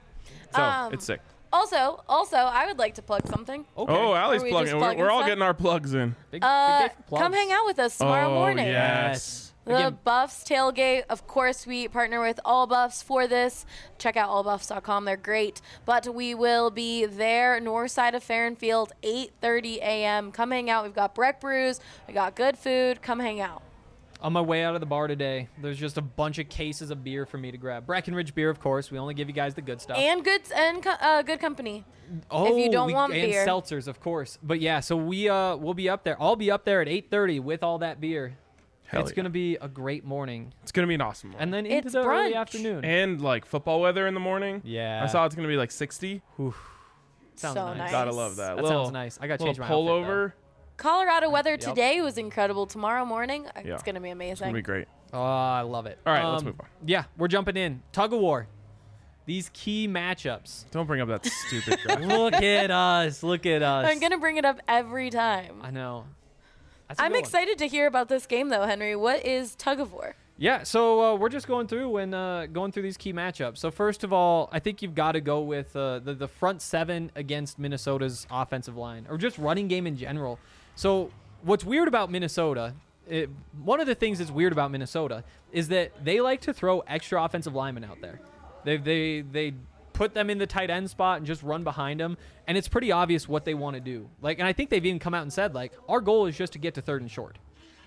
So it's sick. Also, I would like to plug something. Okay. Oh, Allie's Are we plugging. just We're plugging all stuff? getting our plugs in. Big day for plugs. Come hang out with us tomorrow morning. Yes. The Again, Buffs tailgate. Of course, we partner with All Buffs for this. Check out allbuffs.com. They're great. But we will be there, north side of Farron Field, 8:30 a.m. Come hang out. We've got Breck Brews. We got good food. Come hang out. on my way out of the bar today, there's just a bunch of cases of beer for me to grab. Breckenridge beer, of course. We only give you guys the good stuff. And good company. Oh, if you don't want and beer. seltzers, of course. But yeah, so we'll be up there. I'll be up there at 8:30 with all that beer. Hell It's yeah. gonna be a great morning, It's gonna be an awesome one. and then into It's the early brunch. afternoon. And like football weather in the morning. Yeah. I saw it's gonna be like 60. Sounds So nice. nice. Gotta love that. That little, sounds nice. I got to little change my outfit, pullover. Colorado weather Yep. today was incredible. Tomorrow morning, Yeah. it's going to be It's amazing. gonna be great. though. Oh, I love it. All right, let's move on. Yeah, we're jumping in. Tug of war. These key matchups. Don't bring up that stupid graphic. Look at us. Look at us. I'm going to bring it up every time. I know. That's a I'm good one. excited to hear about this game, though, Henry. What is tug of war? Yeah, so we're just going through and going through these key matchups. So first of all, I think you've got to go with the front seven against Minnesota's offensive line, or just running game in general. So what's weird about Minnesota, one of the things that's weird about Minnesota is that they like to throw extra offensive linemen out there. They put them in the tight end spot and just run behind them, and it's pretty obvious what they want to do. Like, and I think they've even come out and said, like, our goal is just to get to 3rd and short.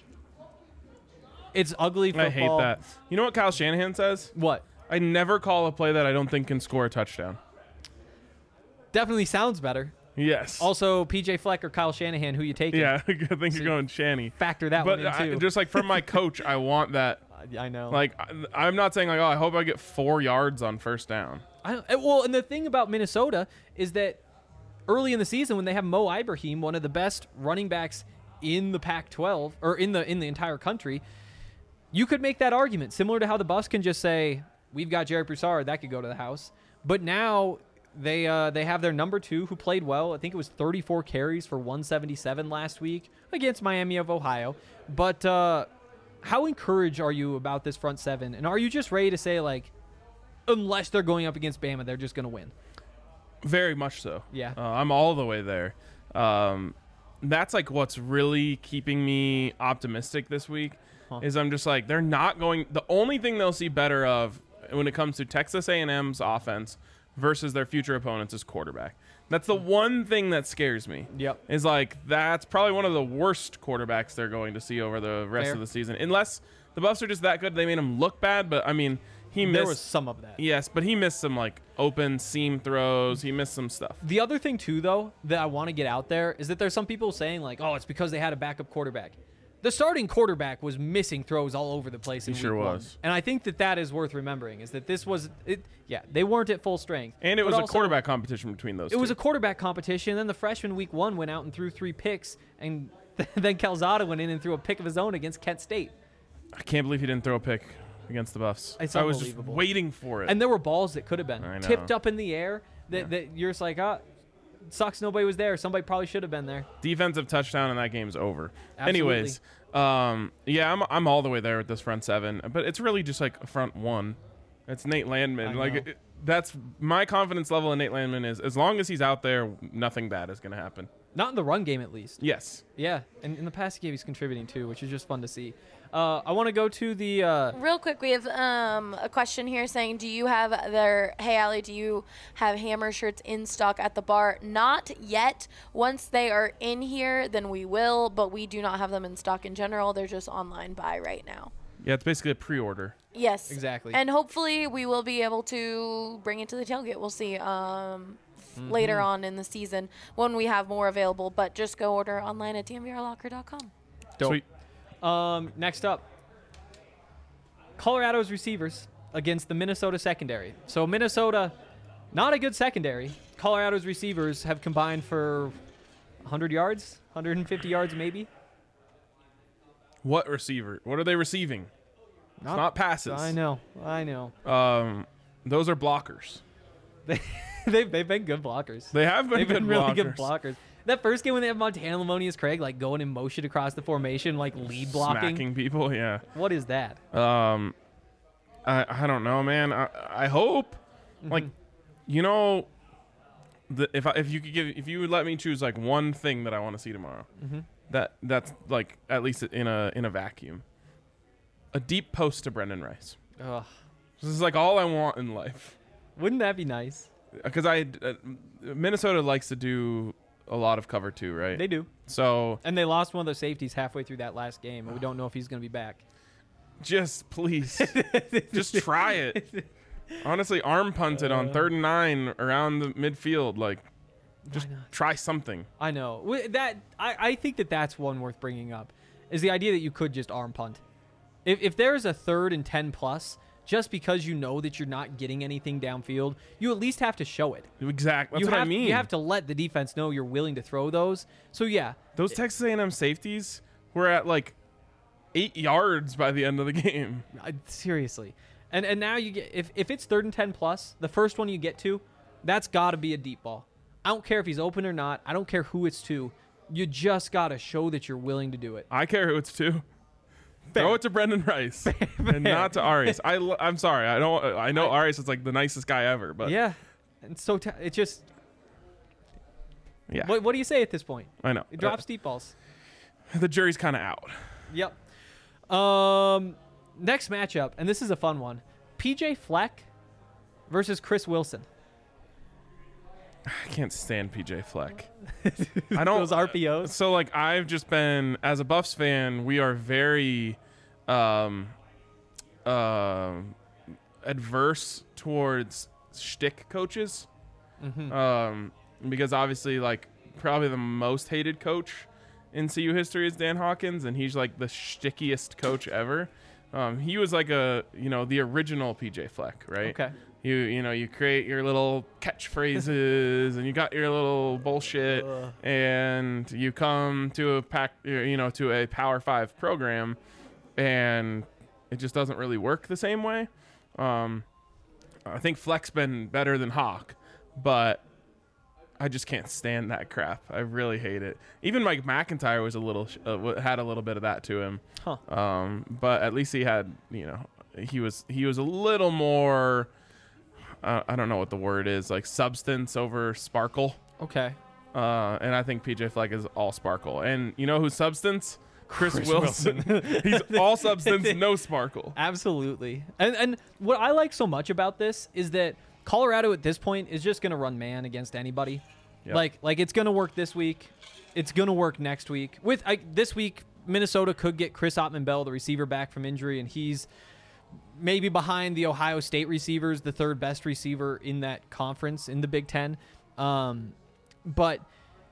It's ugly football. I hate that. You know what Kyle Shanahan says? What? I never call a play that I don't think can score a touchdown. Definitely sounds better. Yes. Also, PJ Fleck or Kyle Shanahan, who you taking? Yeah, I think you're going Shanny. Factor that But one in too. just like from my coach, I want that. I know. Like, I'm not saying like, oh, I hope I get 4 yards on first down. Well, and the thing about Minnesota is that early in the season, when they have Mo Ibrahim, one of the best running backs in the Pac-12 or in the entire country, you could make that argument similar to how the Buffs can just say, "We've got Jarek Broussard, that could go to the house." But now they have their number 2 who played well. I think it was 34 carries for 177 last week against Miami of Ohio. But how encouraged are you about this front seven? And are you just ready to say, like, unless they're going up against Bama, they're just going to win? Very much so. Yeah. I'm all the way there. That's like what's really keeping me optimistic this week is I'm just like, they're not going. The only thing they'll see better of when it comes to Texas A&M's offense versus their future opponents is quarterback. That's the one thing that scares me. Yep. Is like, that's probably one of the worst quarterbacks they're going to see over the rest Fair. of the season. Unless the Buffs are just that good, they made him look bad. But I mean, he missed. There was some of that. Yes, but he missed some like open seam throws. He missed some stuff. The other thing, too, though, that I want to get out there is that there's some people saying, like, oh, it's because they had a backup quarterback. The starting quarterback was missing throws all over the place in He sure week 1. was. And I think that is worth remembering, is that this was it. Yeah, they weren't at full strength. And it But was a also, quarterback competition between those It two. was a quarterback competition. Then the freshman week 1 went out and threw 3 picks, and then Calzada went in and threw a pick of his own against Kent State. I can't believe he didn't throw a pick against the Buffs. It's I was just unbelievable. waiting for it. And there were balls that could have been I know. tipped up in the air that you're just like, sucks nobody was there. Somebody probably should have been there. Defensive touchdown and that game's over. Absolutely. Anyways, yeah, I'm all the way there with this front seven, but it's really just like a front one. It's Nate Landman. I Like know. that's my confidence level in Nate Landman is as long as he's out there, nothing bad is going to happen. Not in the run game, at least. Yes. Yeah, and in the passing game, he's contributing too, which is just fun to see. I want to go to the. Real quick, we have a question here saying, do you have hey, Allie, do you have Hammer shirts in stock at the bar? Not yet. Once they are in here, then we will, but we do not have them in stock in general. They're just online buy right now. Yeah, it's basically a pre-order. Yes. Exactly. And hopefully we will be able to bring it to the tailgate. We'll see later on in the season when we have more available. But just go order online at dnvrlocker.com. Dope. Sweet. Next up, Colorado's receivers against the Minnesota secondary. So Minnesota, not a good secondary. Colorado's receivers have combined for 100 yards, 150 yards maybe. What receiver? What are they receiving? Not passes. I know. Those are blockers. They've been good blockers. They have been They've good been really blockers. good blockers. That first game when they have Montana Lamonius Craig like going in motion across the formation, like lead blocking. Smacking people, yeah. What is that? I don't know, man. I hope, like, you know, if you would let me choose like one thing that I want to see tomorrow, that's like at least in a vacuum, a deep post to Brendan Rice. Ugh. This is like all I want in life. Wouldn't that be nice? Because Minnesota likes to do a lot of cover too, right? They do. So And they lost one of their safeties halfway through that last game, and we don't know if he's going to be back. just please, just try it. Honestly, arm punt it on 3rd and 9 around the midfield. Like, just Why not? try something. I know. I think that's one worth bringing up, is the idea that you could just arm punt. If there's a 3rd and 10 plus, just because you know that you're not getting anything downfield, you at least have to show it. Exactly. That's what I mean. You have to let the defense know you're willing to throw those. So, yeah. Those Texas A&M safeties were at like 8 yards by the end of the game. Seriously. And now you get, if it's 3rd and 10 plus, the first one you get to, that's got to be a deep ball. I don't care if he's open or not. I don't care who it's to. You just got to show that you're willing to do it. I care who it's to. Throw it to Brendan Rice and not to Arias. I'm sorry. I know Arias is like the nicest guy ever, but Yeah. And so it just, yeah. what do you say at this point? I know. It drops deep balls. The jury's kind of out. Yep. Next matchup, and this is a fun one. PJ Fleck versus Chris Wilson. I can't stand PJ Fleck. I don't. Those RPOs. So like I've just been, as a Buffs fan, we are very adverse towards shtick coaches. Because obviously like probably the most hated coach in CU history is Dan Hawkins, and he's like the shtickiest coach ever. He was like the original PJ Fleck, right? Okay. You create your little catchphrases and you got your little bullshit, and you come to a Power 5 program, and it just doesn't really work the same way. I think Fleck's been better than Hawk, but I just can't stand that crap. I really hate it. Even Mike McIntyre was had a little bit of that to him. Huh. But at least he had, he was a little more, I don't know what the word is, like substance over sparkle. Okay. And I think PJ Fleck is all sparkle. And you know who's substance? Chris Wilson. He's all substance, no sparkle. Absolutely. And what I like so much about this is that Colorado at this point is just going to run man against anybody. Yep. Like it's going to work this week. It's going to work next week. This week, Minnesota could get Chris Ottman-Bell, the receiver, back from injury, and he's maybe behind the Ohio State receivers, the 3rd best receiver in that conference in the Big Ten. But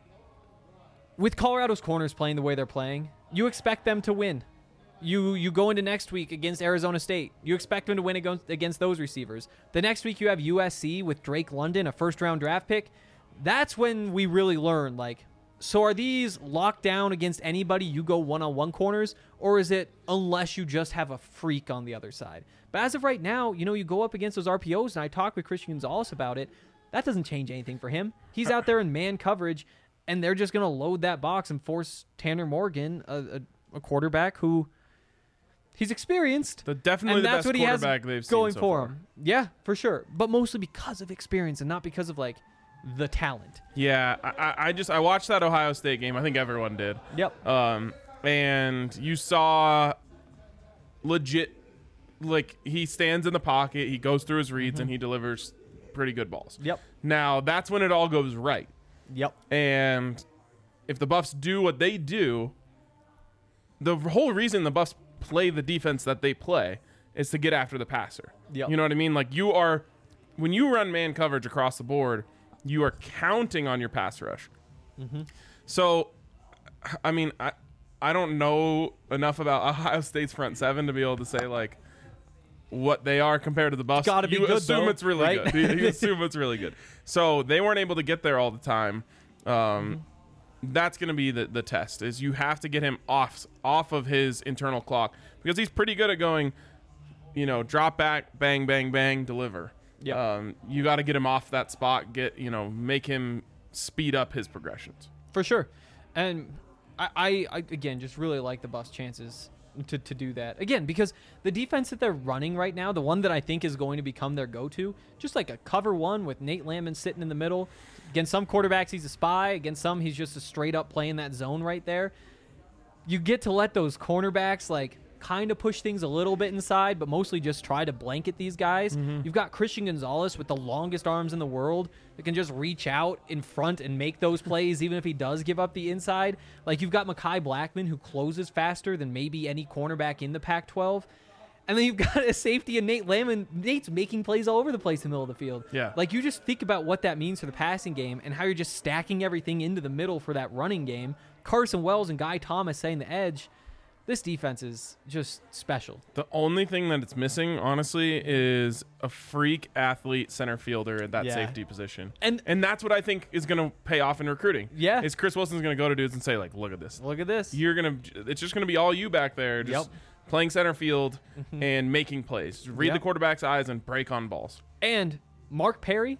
with Colorado's corners playing the way they're playing, you expect them to win. You go into next week against Arizona State. You expect them to win against those receivers. The next week you have USC with Drake London, a 1st-round draft pick. That's when we really learn, so are these locked down against anybody you go one-on-one corners, or is it unless you just have a freak on the other side? But as of right now, you go up against those RPOs, and I talked with Christian Gonzalez about it. That doesn't change anything for him. He's out there in man coverage, and they're just going to load that box and force Tanner Morgan, a quarterback who he's experienced. Definitely and the that's best what he has quarterback they've seen going so for far. him. Yeah, for sure. But mostly because of experience and not because of the talent. Yeah, I watched that Ohio State game. I think everyone did. Yep. And you saw legit, he stands in the pocket, he goes through his reads, and he delivers pretty good balls. Yep. Now, that's when it all goes right. Yep. And if the Buffs do what they do, the whole reason the Buffs play the defense that they play is to get after the passer. Yep. You know what I mean? Like when you run man coverage across the board, you are counting on your pass rush. So, I mean, I don't know enough about Ohio State's front seven to be able to say like what they are compared to the Buffs. Gotta be you good, assume though, it's really right? good. You assume it's really good. So they weren't able to get there all the time. That's going to be the test. Is you have to get him off of his internal clock because he's pretty good at going, drop back, bang, bang, bang, deliver. Yeah. You got to get him off that spot. Make him speed up his progressions. For sure. And I again just really like the Buffs' chances to do that. Again, because the defense that they're running right now, the one that I think is going to become their go-to, just like a cover one with Nate Landman sitting in the middle. Against some quarterbacks, he's a spy. Against some, he's just a straight up playing that zone right there. You get to let those cornerbacks like kind of push things a little bit inside, but mostly just try to blanket these guys. You've got Christian Gonzalez with the longest arms in the world that can just reach out in front and make those plays, even if he does give up the inside. Like you've got Mekhi Blackman who closes faster than maybe any cornerback in the Pac-12. And then you've got a safety in Nate Landman. Nate's making plays all over the place in the middle of the field. Yeah. Like you just think about what that means for the passing game and how you're just stacking everything into the middle for that running game. Carson Wells and Guy Thomas saying the edge. This defense is just special. The only thing that it's missing, honestly, is a freak athlete center fielder at that safety position. And that's what I think is going to pay off in recruiting. Yeah. Is Chris Wilson's going to go to dudes and say, like, look at this. Look at this. It's just going to be all you back there just playing center field and making plays. Just read the quarterback's eyes and break on balls. And Mark Perry,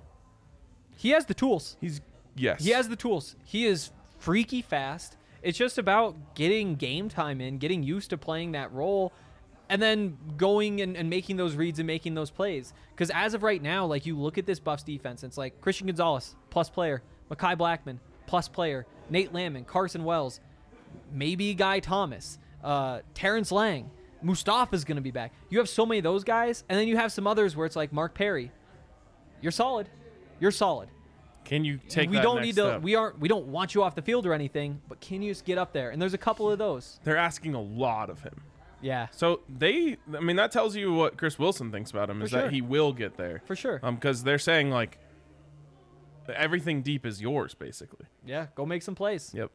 he has the tools. He has the tools. He is freaky fast. It's just about getting game time in, getting used to playing that role, and then going and making those reads and making those plays. Because as of right now, like you look at this Buffs defense, it's like Christian Gonzalez, plus player, Mekhi Blackman, plus player, Nate Landman, Carson Wells, maybe Guy Thomas, Terrence Lang, Mustafa's going to be back. You have so many of those guys, and then you have some others where it's like Mark Perry. You're solid. You're solid. Can you take We that don't next need to. step? We don't want you off the field or anything, but can you just get up there? And there's a couple of those. They're asking a lot of him. Yeah, So that tells you what Chris Wilson thinks about him, is sure. that he will get there. for sure. Because they're saying, like, everything deep is yours, basically. Yeah, go make some plays. Yep.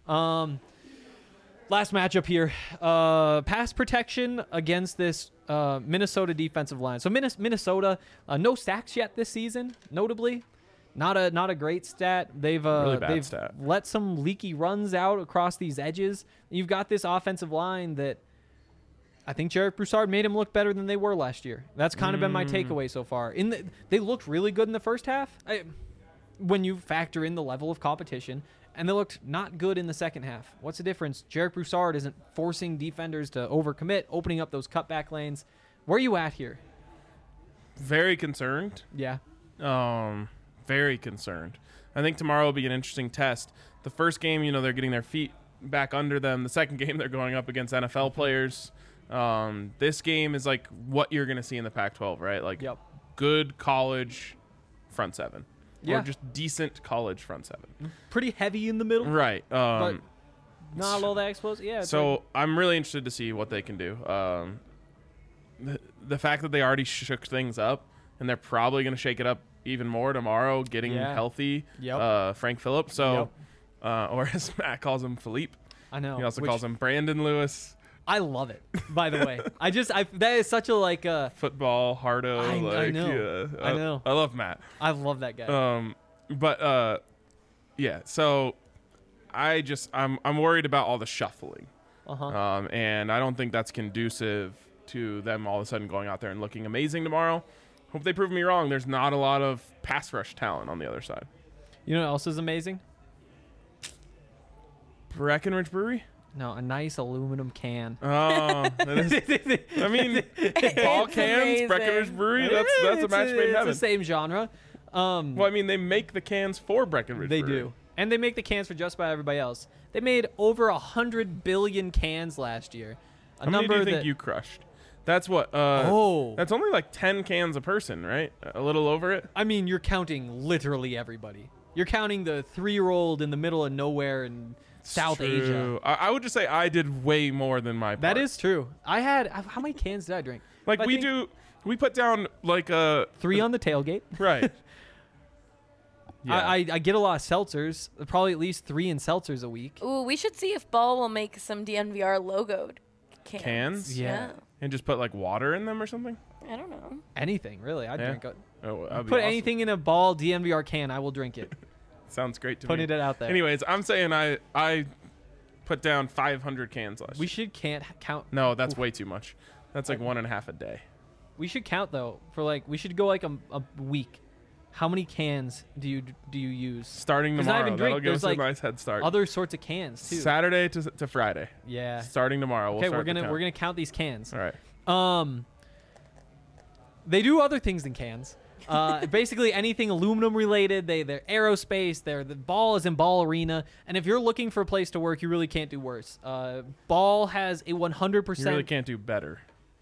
Last matchup here, pass protection against this Minnesota defensive line. So Minnesota, no sacks yet this season, notably. Not a great stat. They've Really bad they've stat. let some leaky runs out across these edges. You've got this offensive line that I think Jarek Broussard made them look better than they were last year. That's kind of been my takeaway so far. They looked really good in the first half when you factor in the level of competition, and they looked not good in the second half. What's the difference? Jarek Broussard isn't forcing defenders to overcommit, opening up those cutback lanes. Where are you at here? Very concerned. Yeah. Very concerned. I think tomorrow will be an interesting test. The first game, they're getting their feet back under them. The second game, they're going up against NFL players. This game is like what you're going to see in the Pac-12, right? Like good college front seven. Yeah. Or just decent college front seven. Pretty heavy in the middle. Right. But not all that explosive. Yeah. So I'm really interested to see what they can do. The fact that they already shook things up, and they're probably going to shake it up even more tomorrow, getting healthy. Frank Phillips. So, or as Matt calls him, Philippe. I know. He also calls him Brandon Lewis. I love it. By the way, that is such a football hardo. I know. Yeah, I know. I love Matt. I love that guy. Yeah. So I'm worried about all the shuffling. And I don't think that's conducive to them all of a sudden going out there and looking amazing tomorrow. Hope they prove me wrong. There's not a lot of pass rush talent on the other side. You know what else is amazing? Breckenridge Brewery? No, a nice aluminum can. Oh, I mean, ball cans, amazing. Breckenridge Brewery. That's a match made in heaven. It's the same genre. Well, I mean, they make the cans for Breckenridge They Brewery. do, and they make the cans for just about everybody else. They made over 100 billion cans last year. How many do you think you crushed? That's what. That's only like 10 cans a person, right? A little over it. I mean, you're counting literally everybody. You're counting the 3-year-old in the middle of nowhere in South Asia. I would just say I did way more than my part. That is true. How many cans did I drink? Like I we think- do. We put down like a 3 on the tailgate. right. Yeah. I get a lot of seltzers. Probably at least 3 in seltzers a week. Ooh, we should see if Ball will make some DNVR logoed cans. Cans? Yeah. and just put like water in them or something. I don't know. Anything really. I'd Yeah. drink it. Oh, that'd be Put awesome. anything in a Ball DNVR can. I will drink it. Sounds great to Putting me. it out there. Anyways, I'm saying I put down 500 cans last We year. should can't count. No, that's way too much. That's like 1.5 a day. We should count though for like we should go like a week. How many cans do you use? Starting 'Cause I tomorrow. haven't That'll drank. give There's, us like, a nice head start. Other sorts of cans too. Saturday to Friday. Yeah. Starting tomorrow. We'll Okay, start the count. we're gonna count these cans. All right. They do other things than cans. Basically anything aluminum related. They're aerospace. The Ball is in Ball Arena, and if you're looking for a place to work, you really can't do worse. Ball has a 100%. You really can't do better.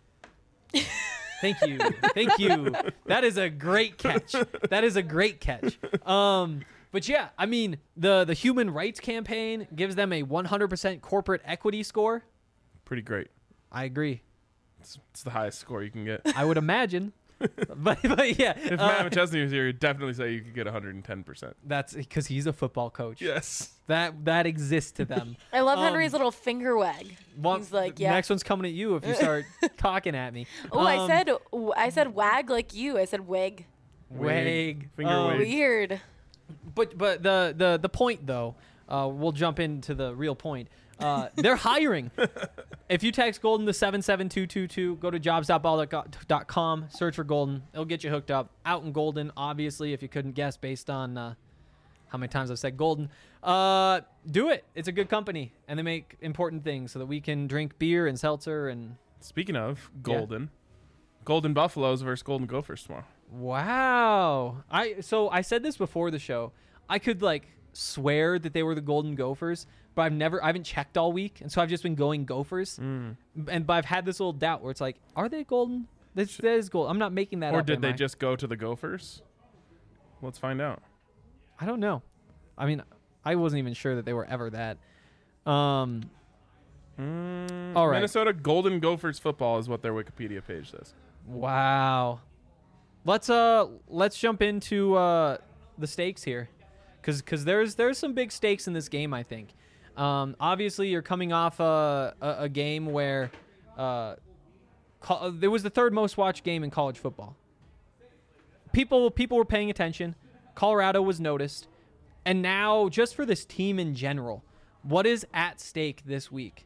Thank you. Thank you. That is a great catch. That is a great catch. But yeah, I mean, the Human Rights Campaign gives them a 100% corporate equity score. Pretty great. I agree. It's the highest score you can get. I would imagine. but yeah. If Matt McChesney was here, he'd definitely say you could get 110%. That's because he's a football coach. Yes. That exists to them. I love Henry's little finger wag. He's like, yeah. Next one's coming at you if you start cocking at me. Oh, I said wag like you. I said wig. Wag. Finger wag. Weird. But the point though, we'll jump into the real point. They're hiring. If you text Golden to 77222, go to jobs.ball.com, search for Golden. It'll get you hooked up. Out in Golden, obviously, if you couldn't guess based on how many times I've said Golden. Do it. It's a good company, and they make important things so that we can drink beer and seltzer and. Speaking of Golden, Golden Buffaloes versus Golden Gophers tomorrow. Wow. I said this before the show. I could swear that they were the Golden Gophers, but I haven't checked all week, and so I've just been going Gophers. But I've had this little doubt where it's like, are they Golden? That is gold. I'm not making that up. Or did am they I? just go to the Gophers? Let's find out. I don't know. I mean, I wasn't even sure that they were ever that. All right. Minnesota Golden Gophers football is what their Wikipedia page says. Wow. Let's jump into the stakes here, because there's some big stakes in this game, I think. Obviously, you're coming off a game where there was the third most watched game in college football. People were paying attention. Colorado was noticed. And now, just for this team in general, what is at stake this week?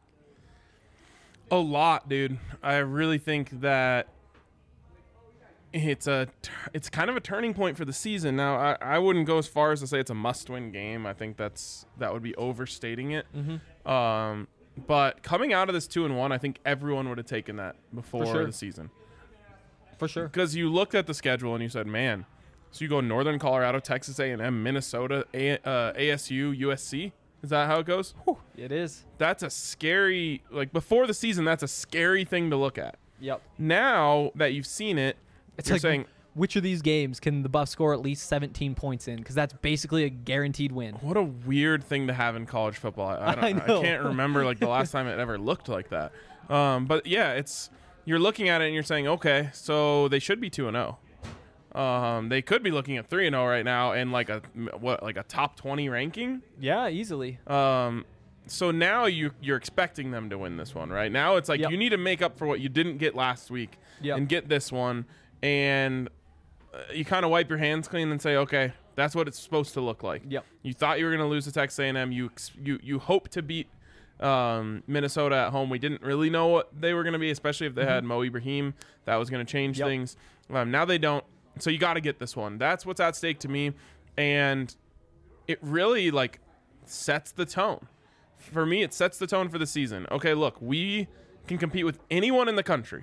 A lot, dude. I really think that it's kind of a turning point for the season. Now, I wouldn't go as far as to say it's a must-win game. I think that would be overstating it. But coming out of this 2-1, I think everyone would have taken that before sure. the season. For sure. Because you looked at the schedule and you said, man, so you go Northern Colorado, Texas A&M, Minnesota, ASU, USC. Is that how it goes? It is. That's a scary, before the season, that's a scary thing to look at. Yep. Now that you've seen it, It's you're like, saying, which of these games can the Buffs score at least 17 points in? Because that's basically a guaranteed win. what a weird thing to have in college football. I know. can't remember the last time it ever looked like that. But yeah, you're looking at it and you're saying, okay, so they should be 2-0. They could be looking at 3-0 right now and a top 20 ranking. Yeah, easily. So now you're expecting them to win this one, right? Now it's like Yep. you need to make up for what you didn't get last week Yep. and get this one. And you kind of wipe your hands clean and say, okay, that's what it's supposed to look like. Yep. You thought you were going to lose to Texas A&M. You hope to beat Minnesota at home. We didn't really know what they were going to be, especially if they had Mo Ibrahim. That was going to change Yep. things. Now they don't. So you got to get this one. That's what's at stake to me. And it really sets the tone. For me, it sets the tone for the season. Okay, look, we can compete with anyone in the country.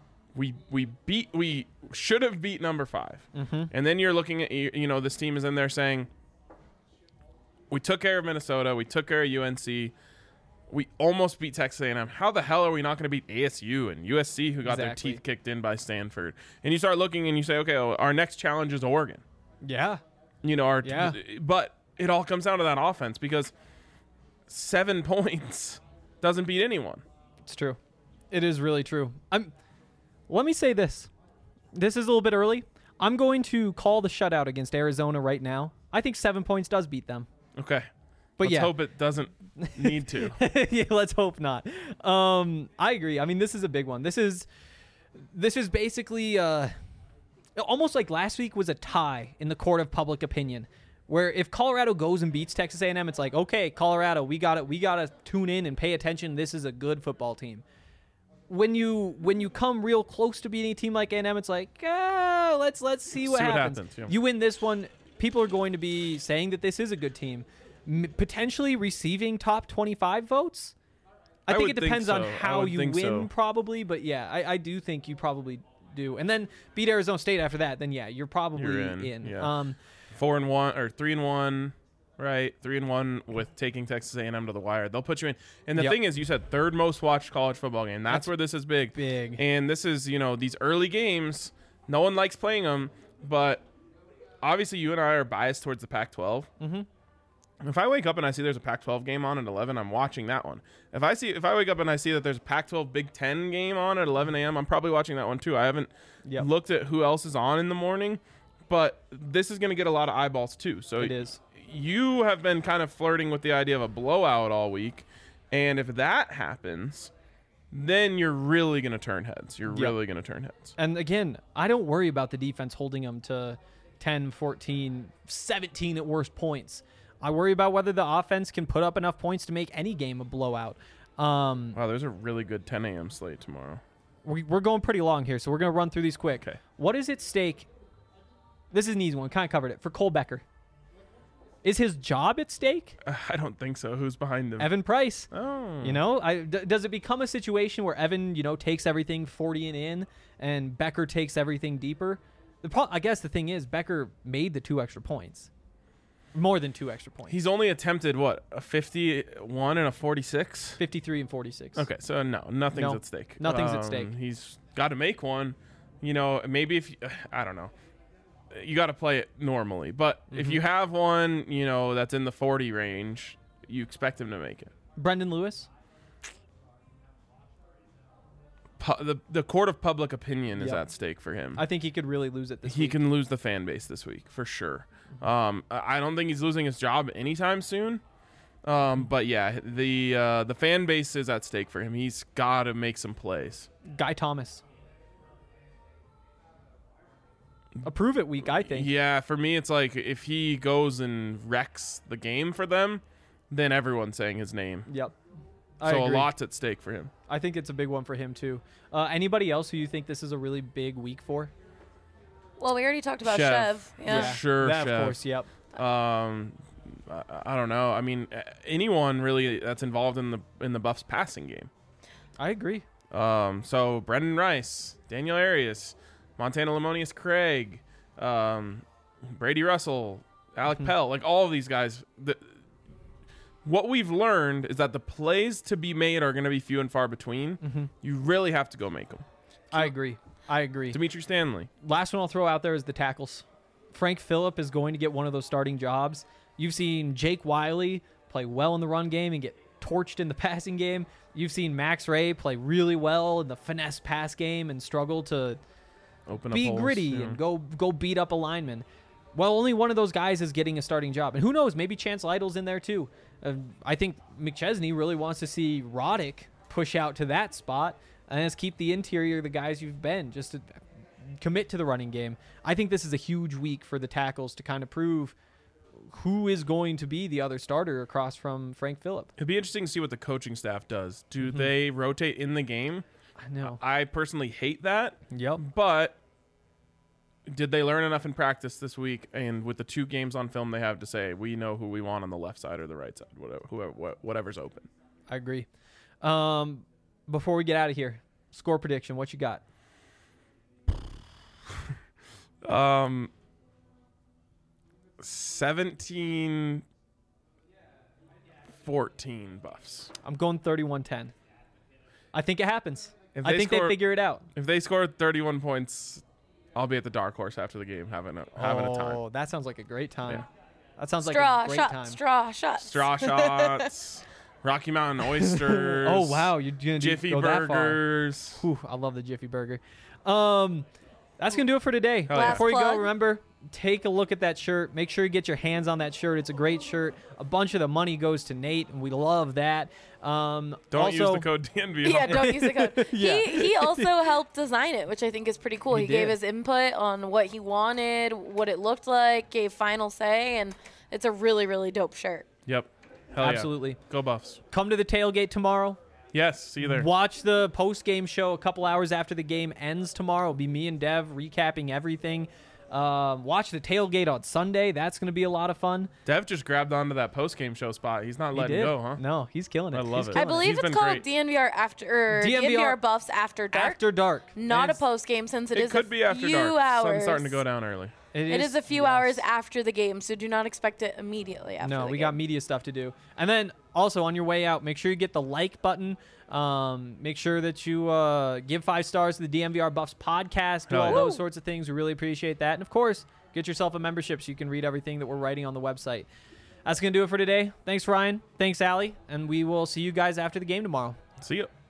We should have beat number 5. And then you're looking at, this team is in there saying, we took care of Minnesota, we took care of UNC, we almost beat Texas A&M. How the hell are we not going to beat ASU and USC, who got their Exactly. teeth kicked in by Stanford? And you start looking and you say, okay, our next challenge is Oregon. Yeah. Yeah. But it all comes down to that offense, because 7 points doesn't beat anyone. It's true. It is really true. Let me say this. This is a little bit early. I'm going to call the shutout against Arizona right now. I think 7 points does beat them. Okay. But Let's hope it doesn't need to. Yeah, let's hope not. I agree. I mean, this is a big one. This is basically almost like last week was a tie in the court of public opinion, where if Colorado goes and beats Texas A&M, it's like, okay, Colorado, we got to tune in and pay attention. This is a good football team. When you come real close to beating a team like A&M, it's like, let's see what happens. Yeah. You win this one, people are going to be saying that this is a good team, potentially receiving top 25 votes. I think it depends on how you win, probably, but yeah, I do think you probably do. And then beat Arizona State after that, then yeah, you're probably in. Yeah. 4-1 or 3-1. Right, 3-1 with taking Texas A&M to the wire. They'll put you in. And the thing is, you said third most watched college football game. That's where this is big. Big. And this is, these early games, no one likes playing them, but obviously you and I are biased towards the Pac-12. Mm-hmm. If I wake up and I see there's a Pac-12 game on at 11, I'm watching that one. If I wake up and I see that there's a Pac-12 Big Ten game on at 11 a.m., I'm probably watching that one too. I haven't looked at who else is on in the morning, but this is going to get a lot of eyeballs too. So it is. You have been kind of flirting with the idea of a blowout all week, and if that happens, then you're really going to turn heads. You're really going to turn heads. And again, I don't worry about the defense holding them to 10, 14, 17 at worst points. I worry about whether the offense can put up enough points to make any game a blowout. Wow, there's a really good 10 a.m. slate tomorrow. We're going pretty long here, so we're going to run through these quick. Okay. What is at stake? This is an easy one. Kind of covered it. For Cole Becker. Is his job at stake? I don't think so. Who's behind him? Evan Price. Oh. Does it become a situation where Evan, takes everything 40 and in, and Becker takes everything deeper? I guess the thing is, Becker made the 2 extra points. More than 2 extra points. He's only attempted, a 51 and a 46? 53 and 46. Okay, so nothing's at stake. Nothing's at stake. He's got to make one. Maybe if I don't know. You got to play it normally. But if you have one, that's in the 40 range, you expect him to make it. Brendan Lewis? The court of public opinion is at stake for him. I think he could really lose it this week. He can lose the fan base this week, for sure. I don't think he's losing his job anytime soon. But yeah, the fan base is at stake for him. He's got to make some plays. Guy Thomas. A prove it week, I think. Yeah, for me, it's like if he goes and wrecks the game for them, then everyone's saying his name. Yep. So a lot's at stake for him. I think it's a big one for him, too. Anybody else who you think this is a really big week for? Well, we already talked about Chev. Yeah. Sure, that, Chev. Of course, yep. I don't know. I mean, anyone really that's involved in the Buffs passing game. I agree. So Brendan Rice, Daniel Arias, Montana Lemonius Craig, Brady Russell, Alec Pell, like all of these guys. What we've learned is that the plays to be made are going to be few and far between. You really have to go make them. I agree. Dimitri Stanley. Last one I'll throw out there is the tackles. Frank Phillip is going to get one of those starting jobs. You've seen Jake Wiley play well in the run game and get torched in the passing game. You've seen Max Ray play really well in the finesse pass game and struggle to be gritty and go beat up a lineman. Well, only one of those guys is getting a starting job. And who knows, maybe Chance Lytle's in there too. I think McChesney really wants to see Roddick push out to that spot and just keep the interior the guys you've been, just to commit to the running game. I think this is a huge week for the tackles to kind of prove who is going to be the other starter across from Frank Phillip. It'd be interesting to see what the coaching staff does. Do they rotate in the game? I know. I personally hate that. Yep. But did they learn enough in practice this week? And with the 2 games on film they have to say, we know who we want on the left side or the right side, whatever's open. I agree. Before we get out of here, score prediction. What you got? 17-14 Buffs. I'm going 31-10. I think it happens. I think they figure it out. If they score 31 points, I'll be at the Dark Horse after the game having a time. Oh, that sounds like a great time. Yeah. That sounds like a great time. Straw shots. Straw shots. Rocky Mountain Oysters. Oh wow, you're gonna Jiffy go that far. Burgers. Whew, I love the Jiffy Burger. That's gonna do it for today. Oh, yeah. Before you go, plug. remember, take a look at that shirt. Make sure you get your hands on that shirt. It's a great shirt. A bunch of the money goes to Nate, and we love that. Don't also, use the code DNVR. Yeah, don't use the code. Yeah. He also helped design it, which I think is pretty cool. He He gave did. his input on what he wanted, what it looked like, gave final say, and it's a really, really dope shirt. Yep. Hell Absolutely. Yeah. Go Buffs. Come to the tailgate tomorrow. Yes. See you there. Watch the post-game show a couple hours after the game ends tomorrow. It'll be me and Dev recapping everything. Watch the tailgate on Sunday. That's going to be a lot of fun. Dev just grabbed onto that post-game show spot. He's not He letting did. go, huh? No, he's killing it. I love He's it. killing I believe He's it's been called great. DNVR after DNVR Buffs After Dark. After dark. Not a It's- post game since It is could a be after few dark. hours. Sun's starting to go down early. It is a few yes. hours after the game, so do not expect it immediately after. No, the we game. got media stuff to do. And then also on your way out, make sure you get the like button. Make sure that you give 5 stars to the DMVR Buffs podcast. Do Hell all yeah. those sorts of things. We really appreciate that. And of course, get yourself a membership so you can read everything that we're writing on the website. That's going to do it for today. Thanks, Ryan. Thanks, Allie. And we will see you guys after the game tomorrow. See ya.